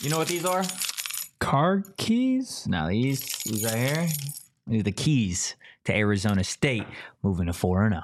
You know what these are? Car keys? No, these right here. These are the keys to Arizona State moving to 4-0.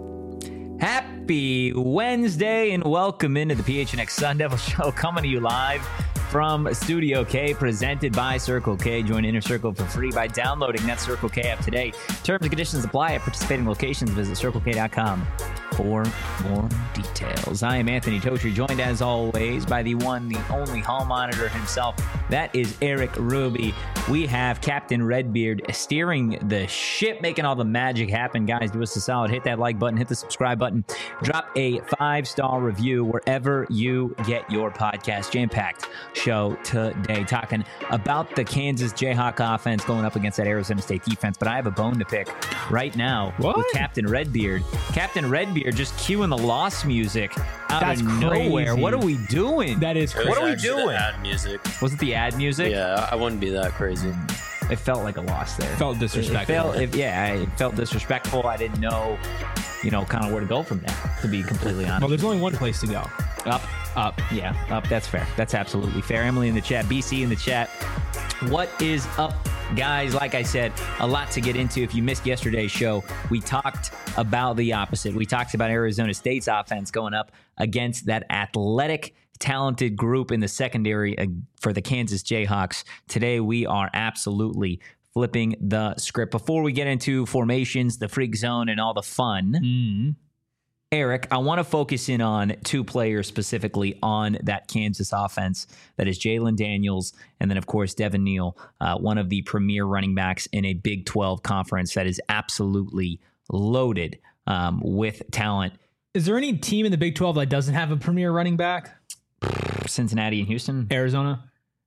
Happy Wednesday and welcome into the PHNX Sun Devil Show, coming to you live from Studio K, presented by Circle K. Join Inner Circle for free by downloading that Circle K app today. Terms and conditions apply at participating locations. Visit CircleK.com for more details. I am Anthony Totri, joined as always by the one, the only hall monitor himself. That is Eric Ruby. We have Captain Redbeard steering the ship, making all the magic happen. Guys, do us a solid. Hit that like button, hit the subscribe button, drop a 5-star review wherever you get your podcast. Jam-packed show today, talking about the Kansas Jayhawk offense going up against that Arizona State defense. But I have a bone to pick right now with Captain Redbeard. Captain Redbeard just cueing the Lost music out of nowhere. What are we doing? That is crazy. What are we doing? Ad music. Was it the ad music? Yeah, I wouldn't be that crazy. It felt like a loss there. Felt disrespectful. It felt disrespectful. I didn't know, kind of where to go from there, to be completely honest. Well, there's only one place to go. Up. Yeah, up. That's fair. That's absolutely fair. Emily in the chat, BC in the chat. What is up, guys? Like I said, a lot to get into. If you missed yesterday's show, we talked about the opposite. We talked about Arizona State's offense going up against that athletic, talented group in the secondary for the Kansas Jayhawks. Today, we are absolutely flipping the script. Before we get into formations, the freak zone, and all the fun, Eric, I want to focus in on two players specifically on that Kansas offense. That is Jalen Daniels, and then, of course, Devin Neal, one of the premier running backs in a Big 12 conference that is absolutely loaded with talent. Is there any team in the Big 12 that doesn't have a premier running back? Cincinnati and Houston. Arizona,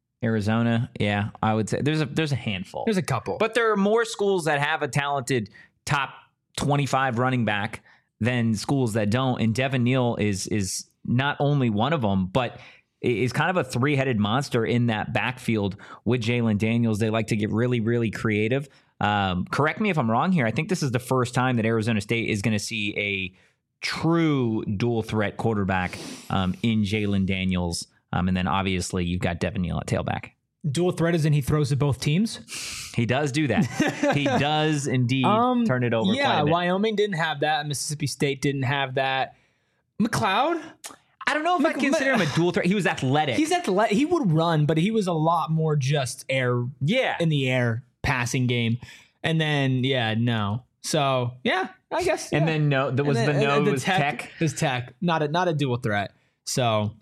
yeah, I would say there's a handful. There's a couple. But there are more schools that have a talented top 25 running back than schools that don't. And Devin Neal is not only one of them, but is kind of a three-headed monster in that backfield with Jalen Daniels. They like to get really, really creative. Correct me if I'm wrong here. I think this is the first time that Arizona State is going to see a true dual threat quarterback in Jalen Daniels. And then obviously you've got Devin Neal at tailback. Dual threat is in he throws to both teams? He does do that. He does indeed turn it over. Yeah, quite a bit. Wyoming didn't have that. Mississippi State didn't have that. McLeod? I don't know if I consider him a dual threat. He was athletic. He's athletic. He would run, but he was a lot more just in the air passing game. And then, no. So, yeah, I guess. Yeah. And then was Tech. It was Tech, not a dual threat. So,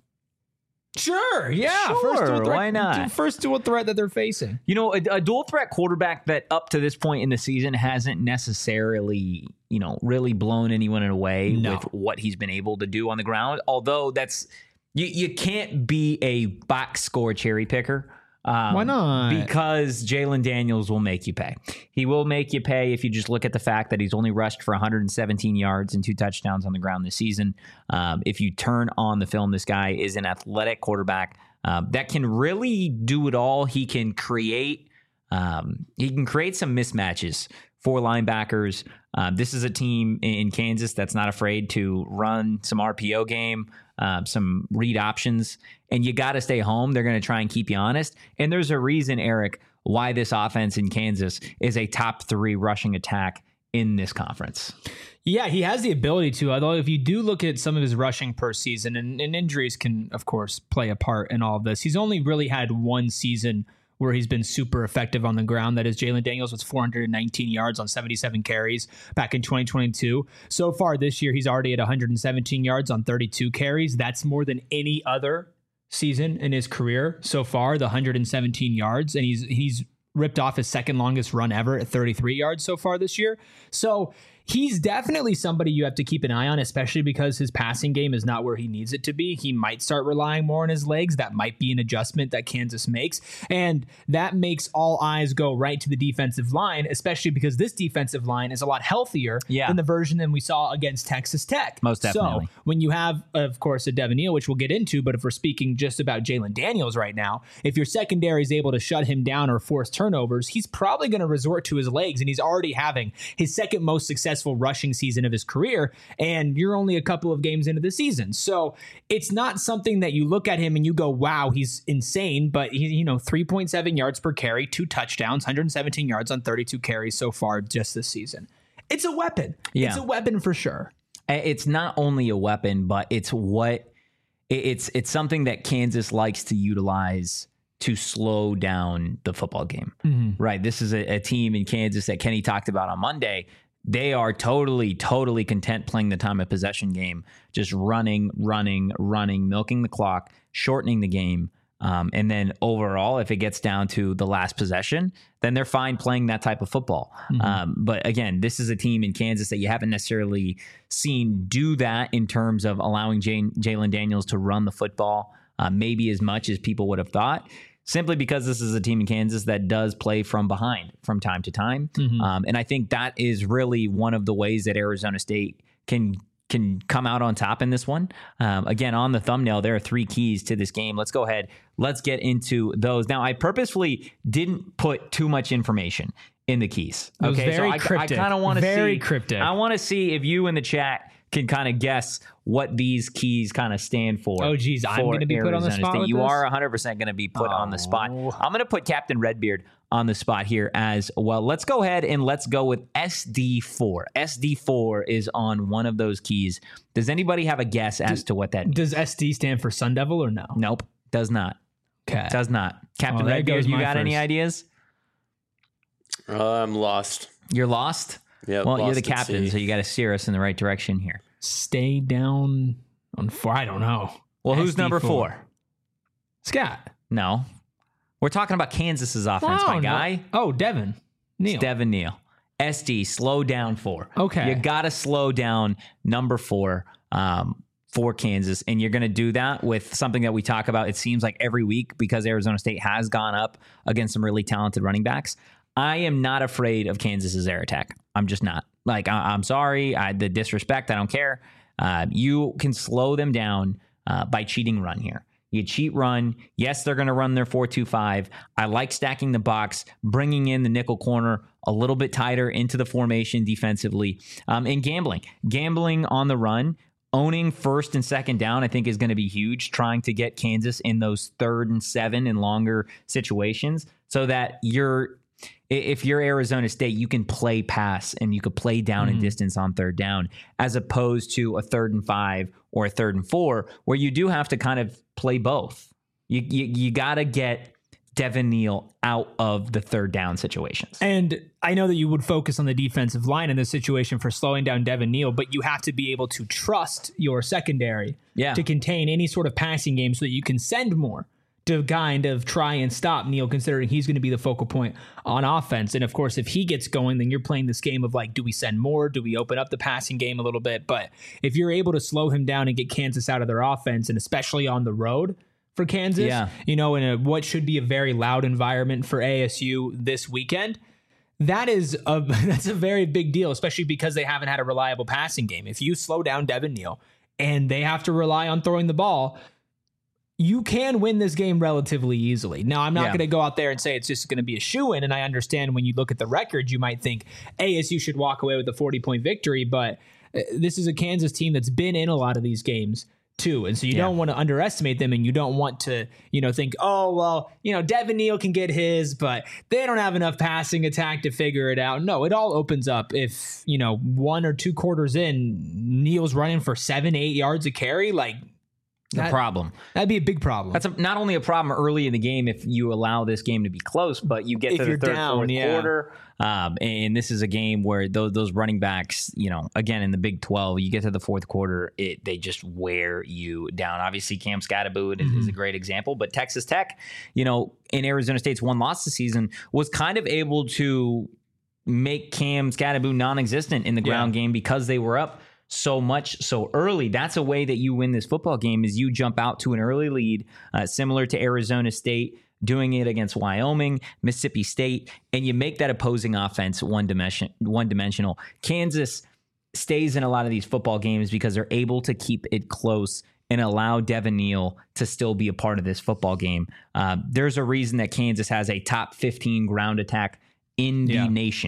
sure, yeah. Sure, first dual threat, why not? First dual threat that they're facing. A dual threat quarterback that up to this point in the season hasn't necessarily, really blown anyone away with what he's been able to do on the ground. Although you can't be a box score cherry picker. Why not? Because Jalen Daniels will make you pay. He will make you pay if you just look at the fact that he's only rushed for 117 yards and 2 touchdowns on the ground this season. If you turn on the film, this guy is an athletic quarterback that can really do it all. He can create some mismatches for linebackers. This is a team in Kansas that's not afraid to run some RPO game, some read options, and you got to stay home. They're going to try and keep you honest. And there's a reason, Eric, why this offense in Kansas is a top 3 rushing attack in this conference. Yeah, he has the ability to, although if you do look at some of his rushing per season, and injuries can, of course, play a part in all of this, he's only really had one season where he's been super effective on the ground. That is Jalen Daniels with 419 yards on 77 carries back in 2022. So far this year, he's already at 117 yards on 32 carries. That's more than any other season in his career so far, the 117 yards. And he's ripped off his second longest run ever at 33 yards so far this year. So he's definitely somebody you have to keep an eye on, especially because his passing game is not where he needs it to be. He might start relying more on his legs. That might be an adjustment that Kansas makes. And that makes all eyes go right to the defensive line, especially because this defensive line is a lot healthier than the version that we saw against Texas Tech. Most definitely. So when you have, of course, a Devin Neal, which we'll get into, but if we're speaking just about Jalen Daniels right now, if your secondary is able to shut him down or force turnovers, he's probably going to resort to his legs, and he's already having his second most success successful rushing season of his career, and you're only a couple of games into the season. So it's not something that you look at him and you go, wow, he's insane, but he, 3.7 yards per carry, 2 touchdowns, 117 yards on 32 carries so far just this season. It's a weapon. Yeah. It's a weapon for sure. It's not only a weapon, but it's something that Kansas likes to utilize to slow down the football game, right? This is a team in Kansas that Kenny talked about on Monday. They are totally content playing the time of possession game, just running, milking the clock, shortening the game. And then overall, if it gets down to the last possession, then they're fine playing that type of football. But again, this is a team in Kansas that you haven't necessarily seen do that in terms of allowing Jalen Daniels to run the football maybe as much as people would have thought, simply because this is a team in Kansas that does play from behind from time to time. And I think that is really one of the ways that Arizona State can come out on top in this one. Again, on the thumbnail, there are 3 keys to this game. Let's go ahead. Let's get into those. Now, I purposefully didn't put too much information in the keys. Okay, so I kind of want to see cryptic. I want to see if you in the chat can kind of guess what these keys kind of stand for. Oh, geez, I'm going to be put on the spot. You are 100% going to be put on the spot. I'm going to put Captain Redbeard on the spot here as well. Let's go ahead and let's go with SD4. SD4 is on one of those keys. Does anybody have a guess as to what that means? Does SD stand for Sun Devil or no? Nope, does not. Okay. Does not. Captain Redbeard, you got any ideas? I'm lost. You're lost? Yeah. Well, you're the captain, so you got to steer us in the right direction here. Stay down on 4. I don't know. Well, who's number 4? Scott. No. We're talking about Kansas's offense, my guy. Oh, Devin Neal. It's Devin Neal. SD, slow down 4. Okay. You got to slow down number 4 for Kansas, and you're going to do that with something that we talk about, it seems like every week, because Arizona State has gone up against some really talented running backs. I am not afraid of Kansas's air attack. I'm just not. Like, I'm sorry. The disrespect, I don't care. You can slow them down by cheating run here. You cheat run. Yes, they're going to run their 4-2-5. I like stacking the box, bringing in the nickel corner a little bit tighter into the formation defensively, and gambling on the run. Owning first and second down, I think, is going to be huge, trying to get Kansas in those 3rd and 7 and longer situations so that if you're Arizona State, you can play pass and you could play down and distance on 3rd down, as opposed to a 3rd and 5 or a 3rd and 4, where you do have to kind of play both. You got to get Devin Neal out of the 3rd down situations. And I know that you would focus on the defensive line in this situation for slowing down Devin Neal, but you have to be able to trust your secondary to contain any sort of passing game so that you can send more to kind of try and stop Neal, considering he's going to be the focal point on offense. And of course, if he gets going, then you're playing this game of like, do we send more? Do we open up the passing game a little bit? But if you're able to slow him down and get Kansas out of their offense, and especially on the road for Kansas, in what should be a very loud environment for ASU this weekend, that's a very big deal, especially because they haven't had a reliable passing game. If you slow down Devin Neal and they have to rely on throwing the ball, you can win this game relatively easily. Now, I'm not going to go out there and say it's just going to be a shoo-in, and I understand when you look at the record, you might think ASU should walk away with a 40-point victory, but this is a Kansas team that's been in a lot of these games too, and so you don't want to underestimate them, and you don't want to, think, oh, well, Devin Neal can get his, but they don't have enough passing attack to figure it out. No, it all opens up if, 1 or 2 quarters in, Neal's running for 7-8 yards a carry, like, problem. That'd be a big problem. That's not only a problem early in the game if you allow this game to be close, but you get to the 3rd, 4th quarter. And this is a game where those running backs, again, in the Big 12, you get to the 4th quarter, they just wear you down. Obviously, Cam Skattebo is a great example, but Texas Tech, in Arizona State's one loss this season, was kind of able to make Cam Skattebo non-existent in the ground game because they were up so much so early. That's a way that you win this football game, is you jump out to an early lead, similar to Arizona State doing it against Wyoming, Mississippi State, and you make that opposing offense one-dimensional. Kansas stays in a lot of these football games because they're able to keep it close and allow Devin Neal to still be a part of this football game. There's a reason that Kansas has a top 15 ground attack in the nation.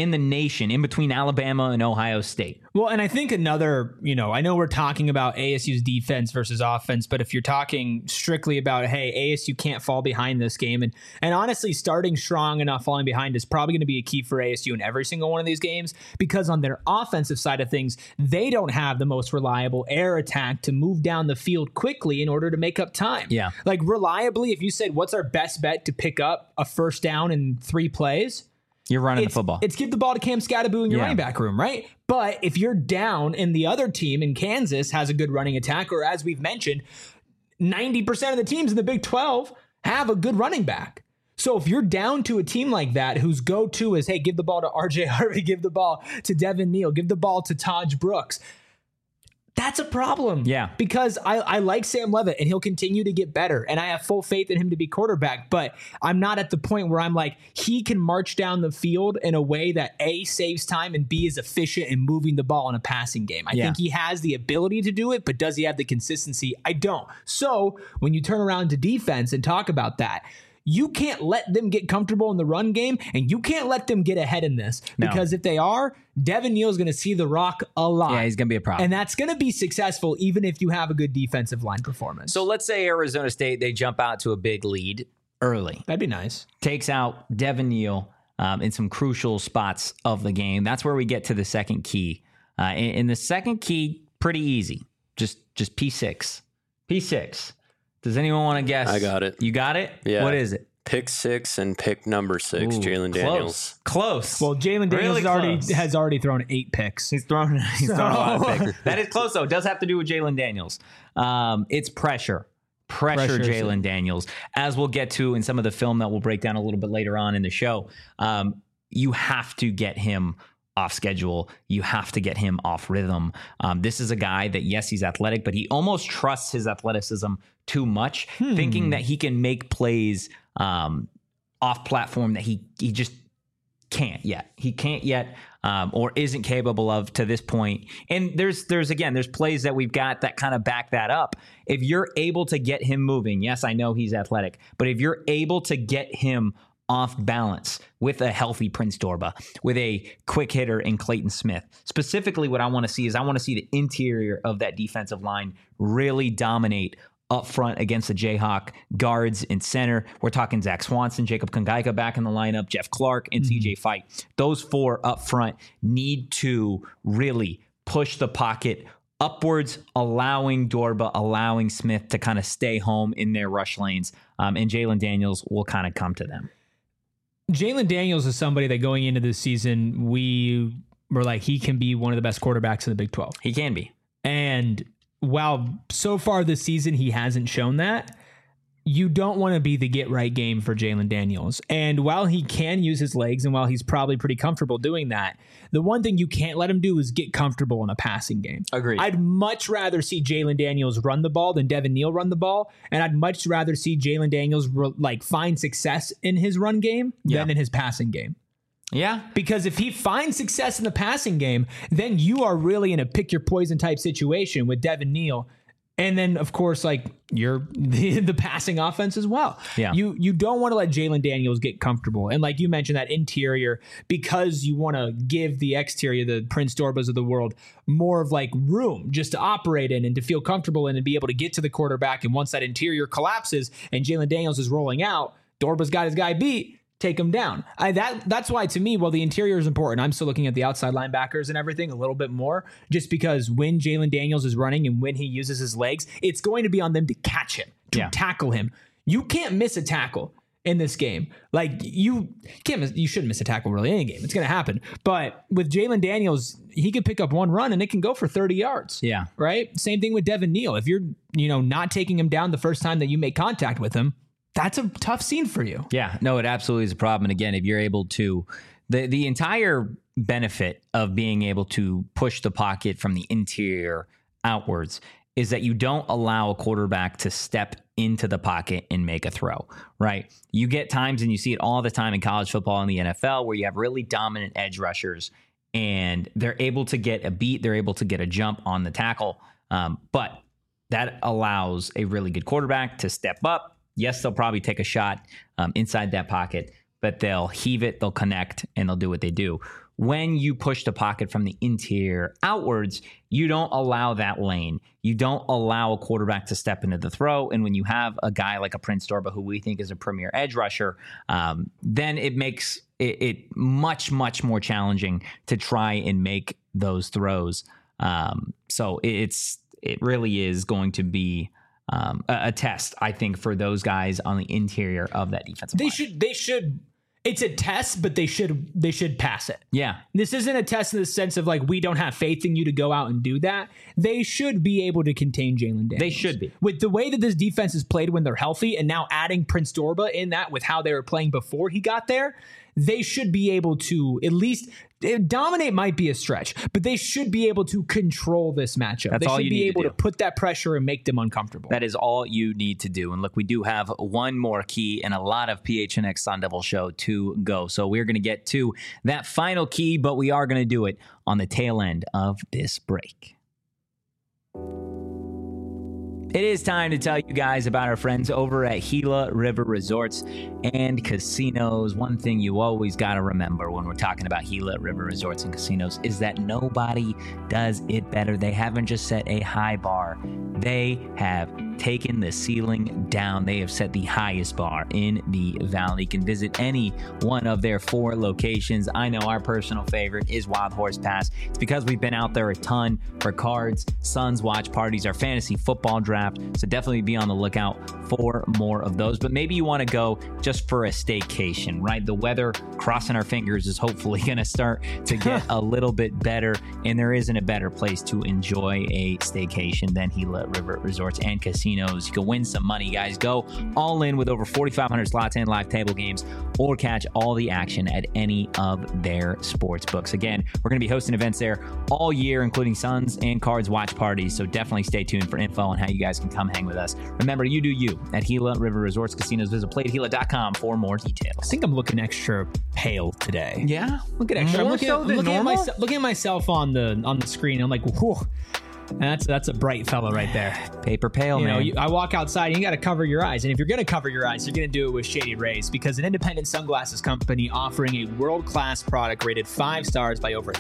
in the nation, in between Alabama and Ohio State. Well, and I think another, I know we're talking about ASU's defense versus offense, but if you're talking strictly about, hey, ASU can't fall behind this game, and honestly, starting strong and not falling behind is probably going to be a key for ASU in every single one of these games, because on their offensive side of things, they don't have the most reliable air attack to move down the field quickly in order to make up time. Yeah. Like reliably, if you said, what's our best bet to pick up a first down in 3 plays? You're running the football. It's give the ball to Cam Scatterboo in your running back room, right? But if you're down and the other team in Kansas has a good running attack, or as we've mentioned, 90% of the teams in the Big 12 have a good running back. So if you're down to a team like that whose go-to is, hey, give the ball to RJ Harvey, give the ball to Devin Neal, give the ball to Taj Brooks, that's a problem. Yeah. Because I like Sam Leavitt and he'll continue to get better. And I have full faith in him to be quarterback. But I'm not at the point where I'm like, he can march down the field in a way that A, saves time, and B, is efficient in moving the ball in a passing game. I think he has the ability to do it, but does he have the consistency? I don't. So when you turn around to defense and talk about that, you can't let them get comfortable in the run game, and you can't let them get ahead in this. Because if they are, Devin Neal is going to see the rock a lot. Yeah, he's going to be a problem. And that's going to be successful even if you have a good defensive line performance. So let's say Arizona State, they jump out to a big lead early. That'd be nice. Takes out Devin Neal in some crucial spots of the game. That's where we get to the second key. In the second key, pretty easy. Just P6. P6. Does anyone want to guess? I got it. You got it? Yeah. What is it? Pick 6 and pick number 6, Jalen Daniels. Close. Well, Jalen Daniels Really has already thrown 8 picks. He's thrown a lot of picks. That is close, though. It does have to do with Jalen Daniels. It's pressure. Pressure Jalen Daniels. As we'll get to in some of the film that we'll break down a little bit later on in the show, you have to get him off schedule. You have to get him off rhythm. This is a guy that, yes, he's athletic, but he almost trusts his athleticism too much, thinking that he can make plays off platform that he just can't yet. He can't yet, or isn't capable of to this point. And there's plays that we've got that kind of back that up. If you're able to get him moving, yes, I know he's athletic, but if you're able to get him off balance with a healthy Prince Dorba, with a quick hitter in Clayton Smith. Specifically, what I want to see is I want to see the interior of that defensive line really dominate up front against the Jayhawk guards in center. We're talking Zach Swanson, Jacob Kongaika back in the lineup, Jeff Clark, and CJ Fight. Those 4 up front need to really push the pocket upwards, allowing Dorba, allowing Smith to kind of stay home in their rush lanes, and Jalen Daniels will kind of come to them. Jalen Daniels is somebody that going into this season, we were like, he can be one of the best quarterbacks in the Big 12. He can be. And while so far this season he hasn't shown that, you don't want to be the get right game for Jalen Daniels. And while he can use his legs, and while he's probably pretty comfortable doing that, the one thing you can't let him do is get comfortable in a passing game. Agreed. I'd much rather see Jalen Daniels run the ball than Devin Neal run the ball. And I'd much rather see Jalen Daniels find success in his run game than in his passing game. Yeah. Because if he finds success in the passing game, then you are really in a pick your poison type situation with Devin Neal. And then, of course, you're the passing offense as well. Yeah. You don't want to let Jalen Daniels get comfortable. And like you mentioned, that interior, because you want to give the exterior, the Prince Dorbas of the world, more of room just to operate in and to feel comfortable in and be able to get to the quarterback. And once that interior collapses and Jalen Daniels is rolling out, Dorba's got his guy beat. Take him down. That's why, to me, while the interior is important, I'm still looking at the outside linebackers and everything a little bit more, just because when Jalen Daniels is running and when he uses his legs, it's going to be on them to catch him, to tackle him. You can't miss a tackle in this game. You shouldn't miss a tackle really in any game. It's going to happen. But with Jalen Daniels, he could pick up one run and it can go for 30 yards. Yeah. Right? Same thing with Devin Neal. If you're, not taking him down the first time that you make contact with him, that's a tough scene for you. Yeah, no, it absolutely is a problem. And again, if you're able to, the entire benefit of being able to push the pocket from the interior outwards is that you don't allow a quarterback to step into the pocket and make a throw, right? You get times, and you see it all the time in college football and the NFL, where you have really dominant edge rushers and they're able to get a beat, they're able to get a jump on the tackle. But that allows a really good quarterback to step up. Yes, they'll probably take a shot inside that pocket, but they'll heave it, they'll connect, and they'll do what they do. when you push the pocket from the interior outwards, you don't allow that lane. You don't allow a quarterback to step into the throw. And when you have a guy like a Prince Dorbah, who we think is a premier edge rusher, then it makes it much, much more challenging to try and make those throws. So it really is going to be a test, I think, for those guys on the interior of that defensive line. They should. It's a test, but they should pass it. Yeah. This isn't a test in the sense of like, we don't have faith in you to go out and do that. They should be able to contain Jalen Daniels. They should be. With the way that this defense is played when they're healthy, and now adding Prince Dorbah in that with how they were playing before he got there, they should be able to at least dominate. Might be a stretch, but they should be able to control this matchup. They should be able to put that pressure and make them uncomfortable. That is all you need to do. And look, we do have one more key and a lot of PHNX Sun Devil show to go. So we're going to get to that final key, but we are going to do it on the tail end of this break. It is time to tell you guys about our friends over at Gila River Resorts and Casinos. One thing you always got to remember when we're talking about Gila River Resorts and Casinos is that nobody does it better. They haven't just set a high bar. They have taken the ceiling down. They have set the highest bar in the valley. You can visit any one of their 4 locations. I know our personal favorite is Wild Horse Pass. It's because we've been out there a ton for cards, Suns watch parties, our fantasy football draft. So definitely be on the lookout for more of those. But maybe you want to go just for a staycation, right? The weather, crossing our fingers, is hopefully going to start to get a little bit better. And there isn't a better place to enjoy a staycation than Gila River Resorts and Casinos. You can win some money, guys. Go all in with over 4,500 slots and live table games, or catch all the action at any of their sports books. Again, we're going to be hosting events there all year, including Suns and Cards watch parties. So definitely stay tuned for info on how you guys can come hang with us. Remember, you do you at Gila River Resorts Casinos. Visit playatgila.com for more details. I think I'm looking extra pale today. Yeah, look at extra. I'm looking at myself on the screen. I'm like, whoa. And that's a bright fella right there. Paper pale, man. I walk outside and you got to cover your eyes. And if you're going to cover your eyes, you're going to do it with Shady Rays, because an independent sunglasses company offering a world-class product rated 5 stars by over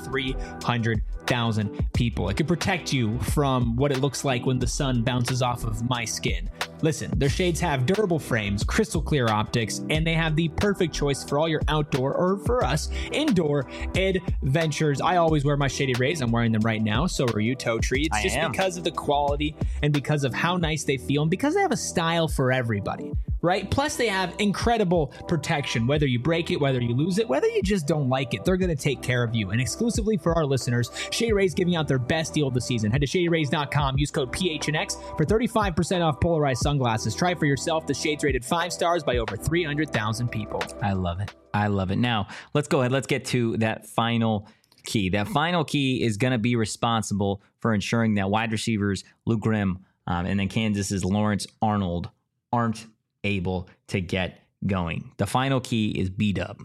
300,000 people. It can protect you from what it looks like when the sun bounces off of my skin. Listen, their shades have durable frames, crystal clear optics, and they have the perfect choice for all your outdoor, or for us, indoor adventures. I always wear my Shady Rays. I'm wearing them right now. So are you, Toe Tree. It's just because of the quality and because of how nice they feel, and because they have a style for everybody, right? Plus, they have incredible protection. Whether you break it, whether you lose it, whether you just don't like it, they're going to take care of you. And exclusively for our listeners, Shady Rays giving out their best deal of the season. Head to ShadyRays.com. Use code PHNX for 35% off polarized sunglasses. Try for yourself. The shades rated 5 stars by over 300,000 people. I love it. I love it. Now, let's go ahead. Let's get to that final key. That final key is going to be responsible for ensuring that wide receivers Luke Grimm and then Kansas's Lawrence Arnold aren't able to get going. The final key is B-Dub.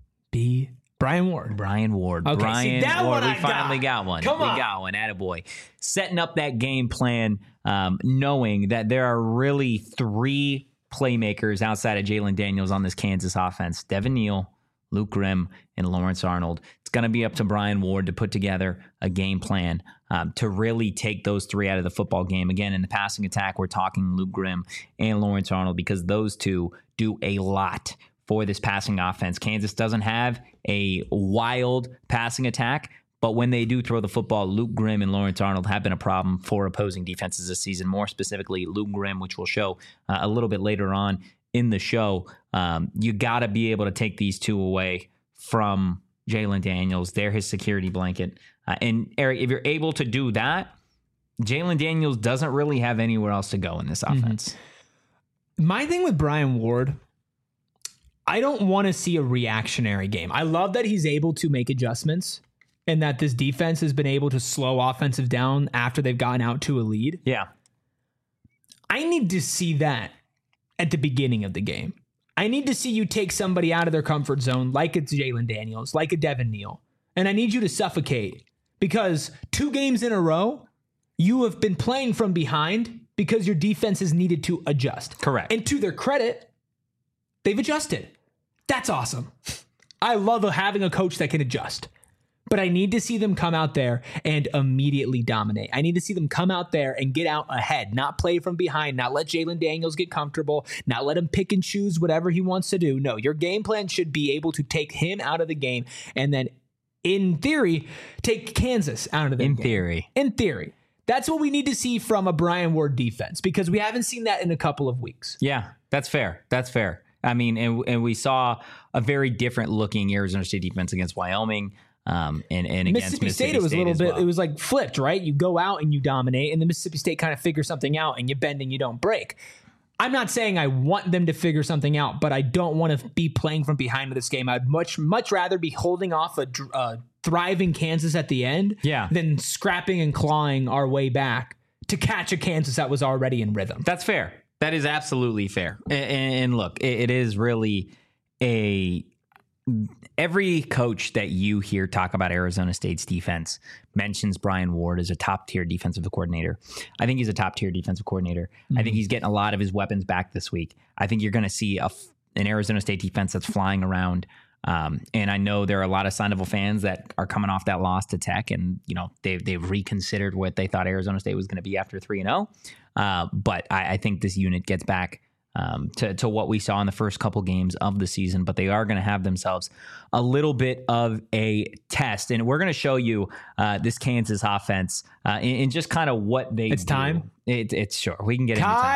Brian Ward. Okay, Brian that Ward. One we finally got one. Come on. We got one. Attaboy. Setting up that game plan, knowing that there are really 3 playmakers outside of Jalen Daniels on this Kansas offense. Devin Neal, Luke Grimm, and Lawrence Arnold. It's going to be up to Brian Ward to put together a game plan to really take those 3 out of the football game. Again, in the passing attack, we're talking Luke Grimm and Lawrence Arnold, because those 2 do a lot for this passing offense. Kansas doesn't have a wild passing attack, but when they do throw the football, Luke Grimm and Lawrence Arnold have been a problem for opposing defenses this season. More specifically, Luke Grimm, which we'll show a little bit later on in the show. You got to be able to take these 2 away from Jalen Daniels. They're his security blanket. And Eric, if you're able to do that, Jalen Daniels doesn't really have anywhere else to go in this offense. My thing with Brian Ward, I don't want to see a reactionary game. I love that he's able to make adjustments and that this defense has been able to slow offensive down after they've gotten out to a lead. Yeah. I need to see that at the beginning of the game. I need to see you take somebody out of their comfort zone, like it's Jalen Daniels, like a Devin Neal. And I need you to suffocate, because 2 games in a row, you have been playing from behind because your defense has needed to adjust. Correct. And to their credit, they've adjusted. That's awesome. I love having a coach that can adjust. But I need to see them come out there and immediately dominate. I need to see them come out there and get out ahead, not play from behind, not let Jalen Daniels get comfortable, not let him pick and choose whatever he wants to do. No, your game plan should be able to take him out of the game and then, in theory, take Kansas out of the game. In theory. That's what we need to see from a Brian Ward defense, because we haven't seen that in a couple of weeks. Yeah, that's fair. That's fair. I mean, and we saw a very different looking Arizona State defense against Wyoming. And against Mississippi State, it was a little bit, it was like flipped, right? You go out and you dominate, and the Mississippi State kind of figure something out, and you bend and you don't break. I'm not saying I want them to figure something out, but I don't want to be playing from behind in this game. I'd much rather be holding off a thriving Kansas at the end than scrapping and clawing our way back to catch a Kansas that was already in rhythm. That's fair. That is absolutely fair. And look, it is really every coach that you hear talk about Arizona State's defense mentions Brian Ward as a top-tier defensive coordinator. I think he's a top-tier defensive coordinator. Mm-hmm. I think he's getting a lot of his weapons back this week. I think you're going to see an Arizona State defense that's flying around. And I know there are a lot of Sun Devil fans that are coming off that loss to Tech, and they've reconsidered what they thought Arizona State was going to be after 3-0. But I think this unit gets back to what we saw in the first couple games of the season, but they are going to have themselves a little bit of a test. And we're going to show you this Kansas offense in just kind of what they It's do. time? It's sure. We can get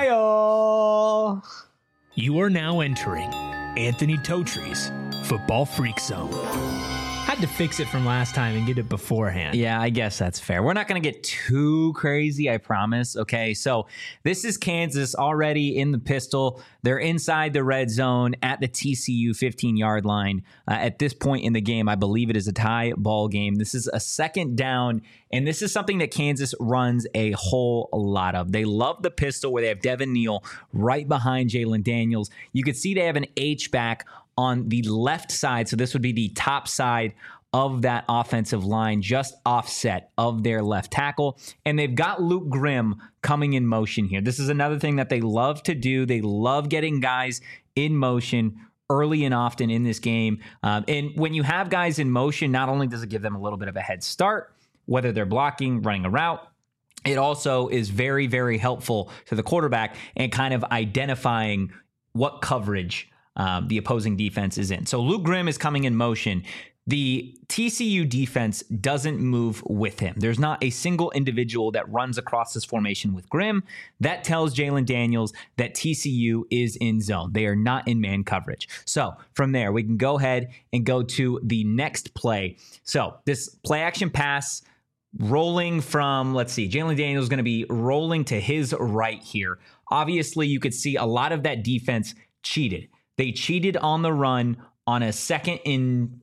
Kyle! You are now entering Anthony Totre's Football Freak Zone. Had to fix it from last time and get it beforehand. Yeah, I guess that's fair. We're not going to get too crazy, I promise. Okay, so this is Kansas already in the pistol. They're inside the red zone at the TCU 15-yard line. At this point in the game, I believe it is a tie ball game. This is a second down, and this is something that Kansas runs a whole lot of. They love the pistol where they have Devin Neal right behind Jalen Daniels. You can see they have an H-back on the left side, so this would be the top side of that offensive line, just offset of their left tackle. And they've got Luke Grimm coming in motion here. This is another thing that they love to do. They love getting guys in motion early and often in this game. And when you have guys in motion, not only does it give them a little bit of a head start, whether they're blocking, running a route, it also is very, very helpful to the quarterback and kind of identifying what coverage the opposing defense is in. So Luke Grimm is coming in motion. The TCU defense doesn't move with him. There's not a single individual that runs across this formation with Grimm. That tells Jalen Daniels that TCU is in zone. They are not in man coverage. So from there, we can go ahead and go to the next play. So this play action pass rolling from, let's see, Jalen Daniels is going to be rolling to his right here. Obviously, you could see a lot of that defense cheated. They cheated on the run on a second and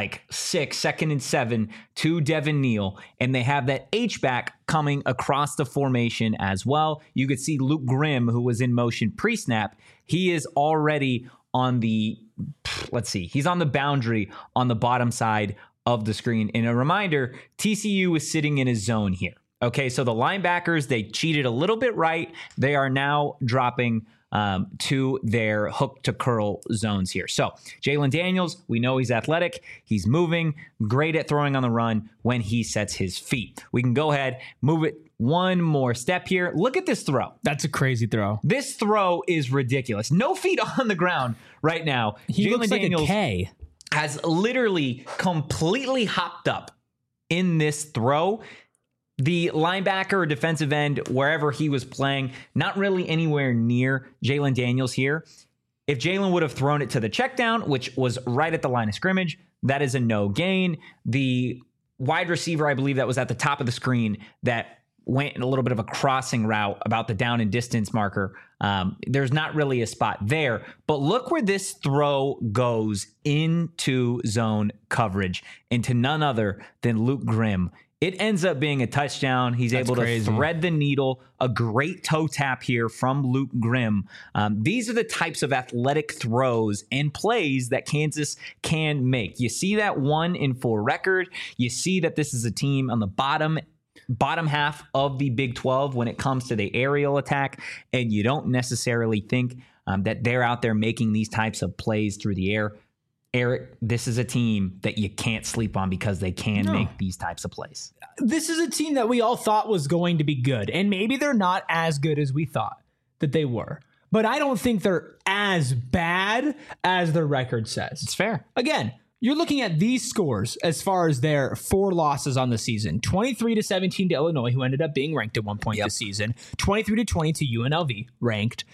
7 to Devin Neal, and they have that H-back coming across the formation as well. You could see Luke Grimm, who was in motion pre-snap. He is already on the, he's on the boundary on the bottom side of the screen. And a reminder, TCU is sitting in his zone here. Okay, so the linebackers, they cheated a little bit right. They are now dropping to their hook to curl zones here. So Jalen Daniels, we know he's athletic. He's moving, great at throwing on the run when he sets his feet. We can go ahead, move it one more step here. Look at this throw. That's a crazy throw. This throw is ridiculous. No feet on the ground right now. He looks like a K. Has literally completely hopped up in this throw. The linebacker or defensive end, wherever he was playing, not really anywhere near Jalen Daniels here. If Jalen would have thrown it to the check down, which was right at the line of scrimmage, that is a no gain. The wide receiver, I believe that was at the top of the screen, that went in a little bit of a crossing route about the down and distance marker. There's not really a spot there, but look where this throw goes into zone coverage, into none other than Luke Grimm. It ends up being a touchdown. He's able to thread the needle. A great toe tap here from Luke Grimm. These are the types of athletic throws and plays that Kansas can make. You see that 1-4 record. You see that this is a team on the bottom half of the Big 12 when it comes to the aerial attack, and you don't necessarily think that they're out there making these types of plays through the air. Eric, this is a team that you can't sleep on because they can make these types of plays. This is a team that we all thought was going to be good, and maybe they're not as good as we thought that they were. But I don't think they're as bad as their record says. It's fair. Again, you're looking at these scores as far as their 4 losses on the season. 23-17 to Illinois, who ended up being ranked at one point this season. 23-20 to UNLV, ranked.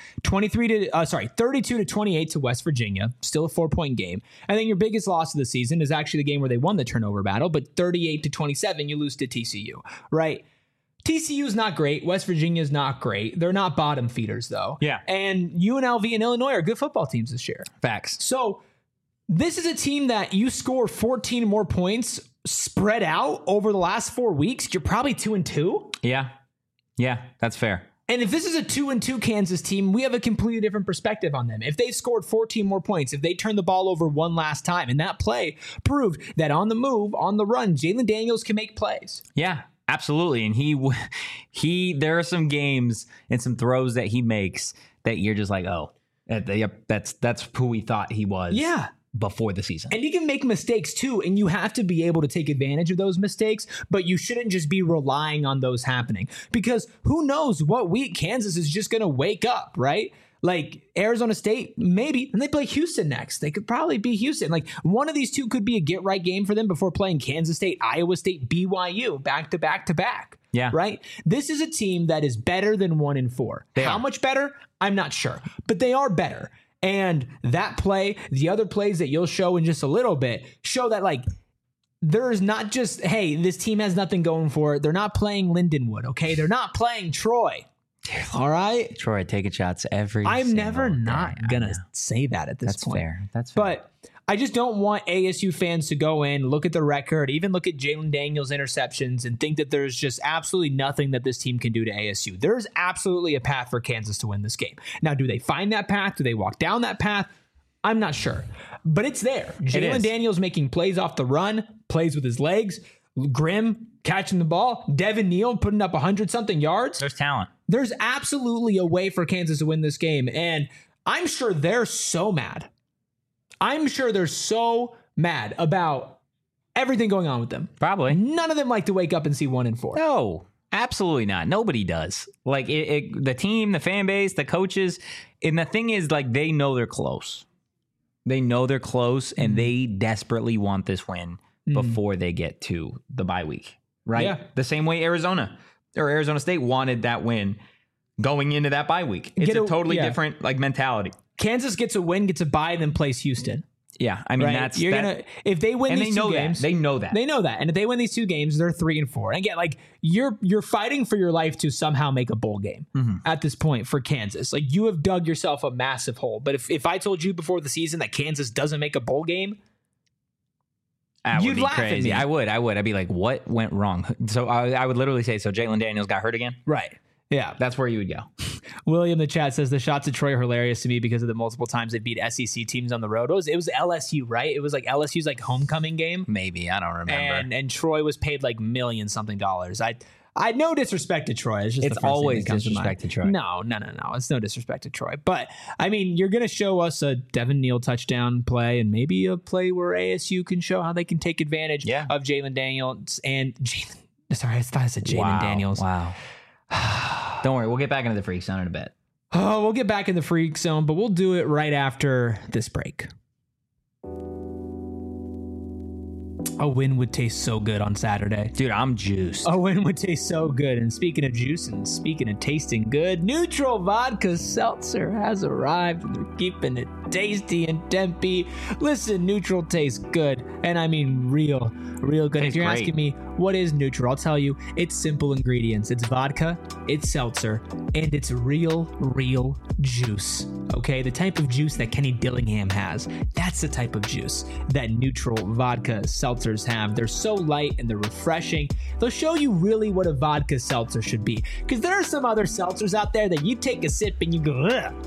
32-28 to West Virginia, still a 4-point game. And then your biggest loss of the season is actually the game where they won the turnover battle, but 38-27, you lose to TCU, right? TCU is not great. West Virginia is not great. They're not bottom feeders, though. Yeah. And UNLV and Illinois are good football teams this year. Facts. So this is a team that you score 14 more points spread out over the last 4 weeks. You're probably 2-2. Yeah. Yeah, that's fair. And if this is a 2-2 Kansas team, we have a completely different perspective on them. If they scored 14 more points, if they turned the ball over one last time, and that play proved that on the move, on the run, Jalon Daniels can make plays. Yeah. Absolutely. And there are some games and some throws that he makes that you're just like, oh, that's who we thought he was before the season. And he can make mistakes too. And you have to be able to take advantage of those mistakes, but you shouldn't just be relying on those happening, because who knows what week Kansas is just going to wake up, right? Like Arizona State, maybe, and they play Houston next. They could probably be Houston. Like one of these two could be a get right game for them before playing Kansas State, Iowa State, BYU back to back to back. Yeah. Right. This is a team that is better than 1-4. How much better? I'm not sure, but they are better. And that play, the other plays that you'll show in just a little bit, show that like there's not just, hey, this team has nothing going for it. They're not playing Lindenwood. Okay. They're not playing Troy. All right. Troy taking shots every I'm never not day. going to say that at this point. That's fair. But I just don't want ASU fans to go in, look at the record, even look at Jalon Daniels' interceptions and think that there's just absolutely nothing that this team can do to ASU. There's absolutely a path for Kansas to win this game. Now, do they find that path? Do they walk down that path? I'm not sure. But it's there. Jalon Daniels making plays off the run, plays with his legs, Grimm catching the ball, Devin Neal putting up 100-something yards. There's talent. There's absolutely a way for Kansas to win this game. And I'm sure they're so mad. I'm sure they're so mad about everything going on with them. Probably. None of them like to wake up and see 1-4. No, absolutely not. Nobody does. Like the team, the fan base, the coaches. And the thing is, like, they know they're close. They know they're close, and they desperately want this win before they get to the bye week. Right? Yeah. The same way Arizona State wanted that win going into that bye week. It's a totally different like mentality. Kansas gets a win, gets a bye, then plays Houston. Yeah, I mean right? If they win these two games, they know that, and if they win these two games, they're 3-4. And again, like you're fighting for your life to somehow make a bowl game at this point for Kansas. Like you have dug yourself a massive hole. But if I told you before the season that Kansas doesn't make a bowl game, you'd be laugh crazy. at me. I would. I'd be like, what went wrong? So I would literally say, so Jalon Daniels got hurt again? Right. Yeah. That's where you would go. William in the chat says the shots at Troy are hilarious to me because of the multiple times they beat SEC teams on the road. It was LSU, right? It was like LSU's like homecoming game. Maybe. I don't remember. And Troy was paid like $million-something. I no disrespect to Troy. It's always disrespect to Troy. No. It's no disrespect to Troy. But I mean, you're going to show us a Devin Neal touchdown play and maybe a play where ASU can show how they can take advantage of Jalon Daniels and I thought I said Jalon Daniels. Wow. Don't worry, we'll get back into the freak zone in a bit. Oh, we'll get back in the freak zone, but we'll do it right after this break. A win would taste so good on Saturday. Dude, I'm juiced. A win would taste so good. And speaking of juice and speaking of tasting good, Neutral Vodka Seltzer has arrived and they're keeping it tasty in Tempe. Listen, Neutral tastes good. And I mean real good. If you're asking me, what is Neutral? I'll tell you, it's simple ingredients. It's vodka, it's seltzer, and it's real juice. Okay, the type of juice that Kenny Dillingham has. That's the type of juice that Neutral Vodka Seltzers have. They're so light and they're refreshing. They'll show you really what a vodka seltzer should be. Because there are some other seltzers out there that you take a sip and you go, ugh.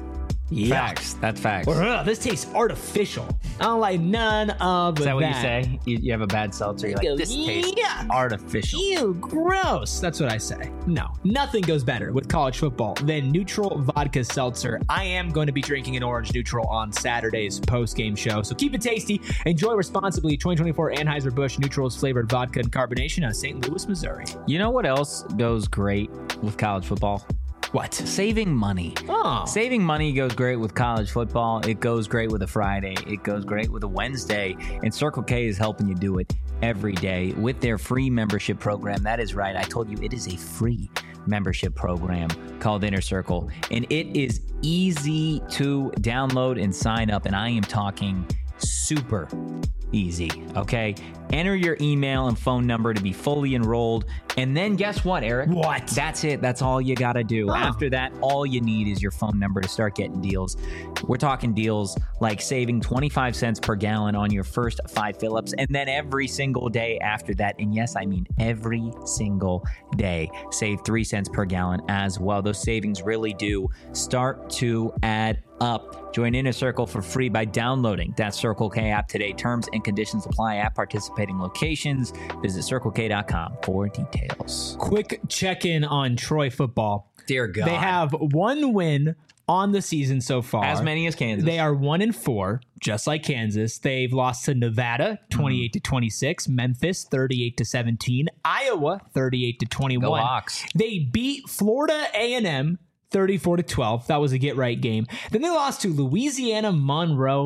Facts. That's facts. This tastes artificial. I don't like none of that. Is that what you say? You have a bad seltzer. You're like, this tastes artificial. Ew, gross. That's what I say. No, nothing goes better with college football than neutral vodka seltzer. I am going to be drinking an orange neutral on Saturday's post-game show. So keep it tasty. Enjoy responsibly. 2024 Anheuser-Busch Neutrals flavored vodka and carbonation out of St. Louis, Missouri. You know what else goes great with college football? What? Saving money. Oh. Saving money goes great with college football. It goes great with a Friday. It goes great with a Wednesday. And Circle K is helping you do it every day with their free membership program. That is right. I told you it is a free membership program called Inner Circle. And it is easy to download and sign up. And I am talking super easy, okay? Enter your email and phone number to be fully enrolled. And then guess what, Eric? What? That's it. That's all you got to do. Oh. After that, all you need is your phone number to start getting deals. We're talking deals like saving 25 cents per gallon on your first 5 fill-ups, and then every single day after that, and yes, I mean every single day, save 3 cents per gallon as well. Those savings really do start to add up. Join Inner Circle for free by downloading that Circle K app today. Terms and conditions apply at participating locations. Visit CircleK.com for details. Quick check-in on Troy football. Dear God. They have one win on the season so far. As many as Kansas. They are 1-4, just like Kansas. They've lost to Nevada 28-26, Memphis 38-17, Iowa 38-21. Go Hawks. They beat Florida A&M 34-12. That was a get-right game. Then they lost to Louisiana Monroe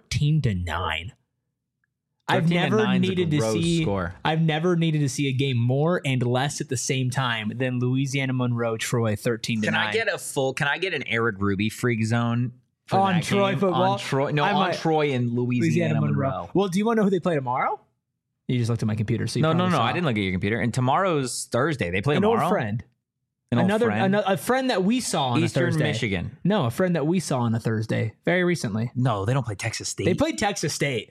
13-9. I've never needed to see a game more and less at the same time than Louisiana Monroe Troy 13-9. Can I get an Eric Ruby freak zone for on that Troy game? football? On Troy and Louisiana Monroe. Well, do you want to know who they play tomorrow? You just looked at my computer. So no. I didn't look at your computer. And tomorrow's Thursday. They play an tomorrow. Old friend. A friend that we saw on Eastern a Thursday. Michigan. No, a friend that we saw on a Thursday very recently. No, they don't play Texas State. They played Texas State.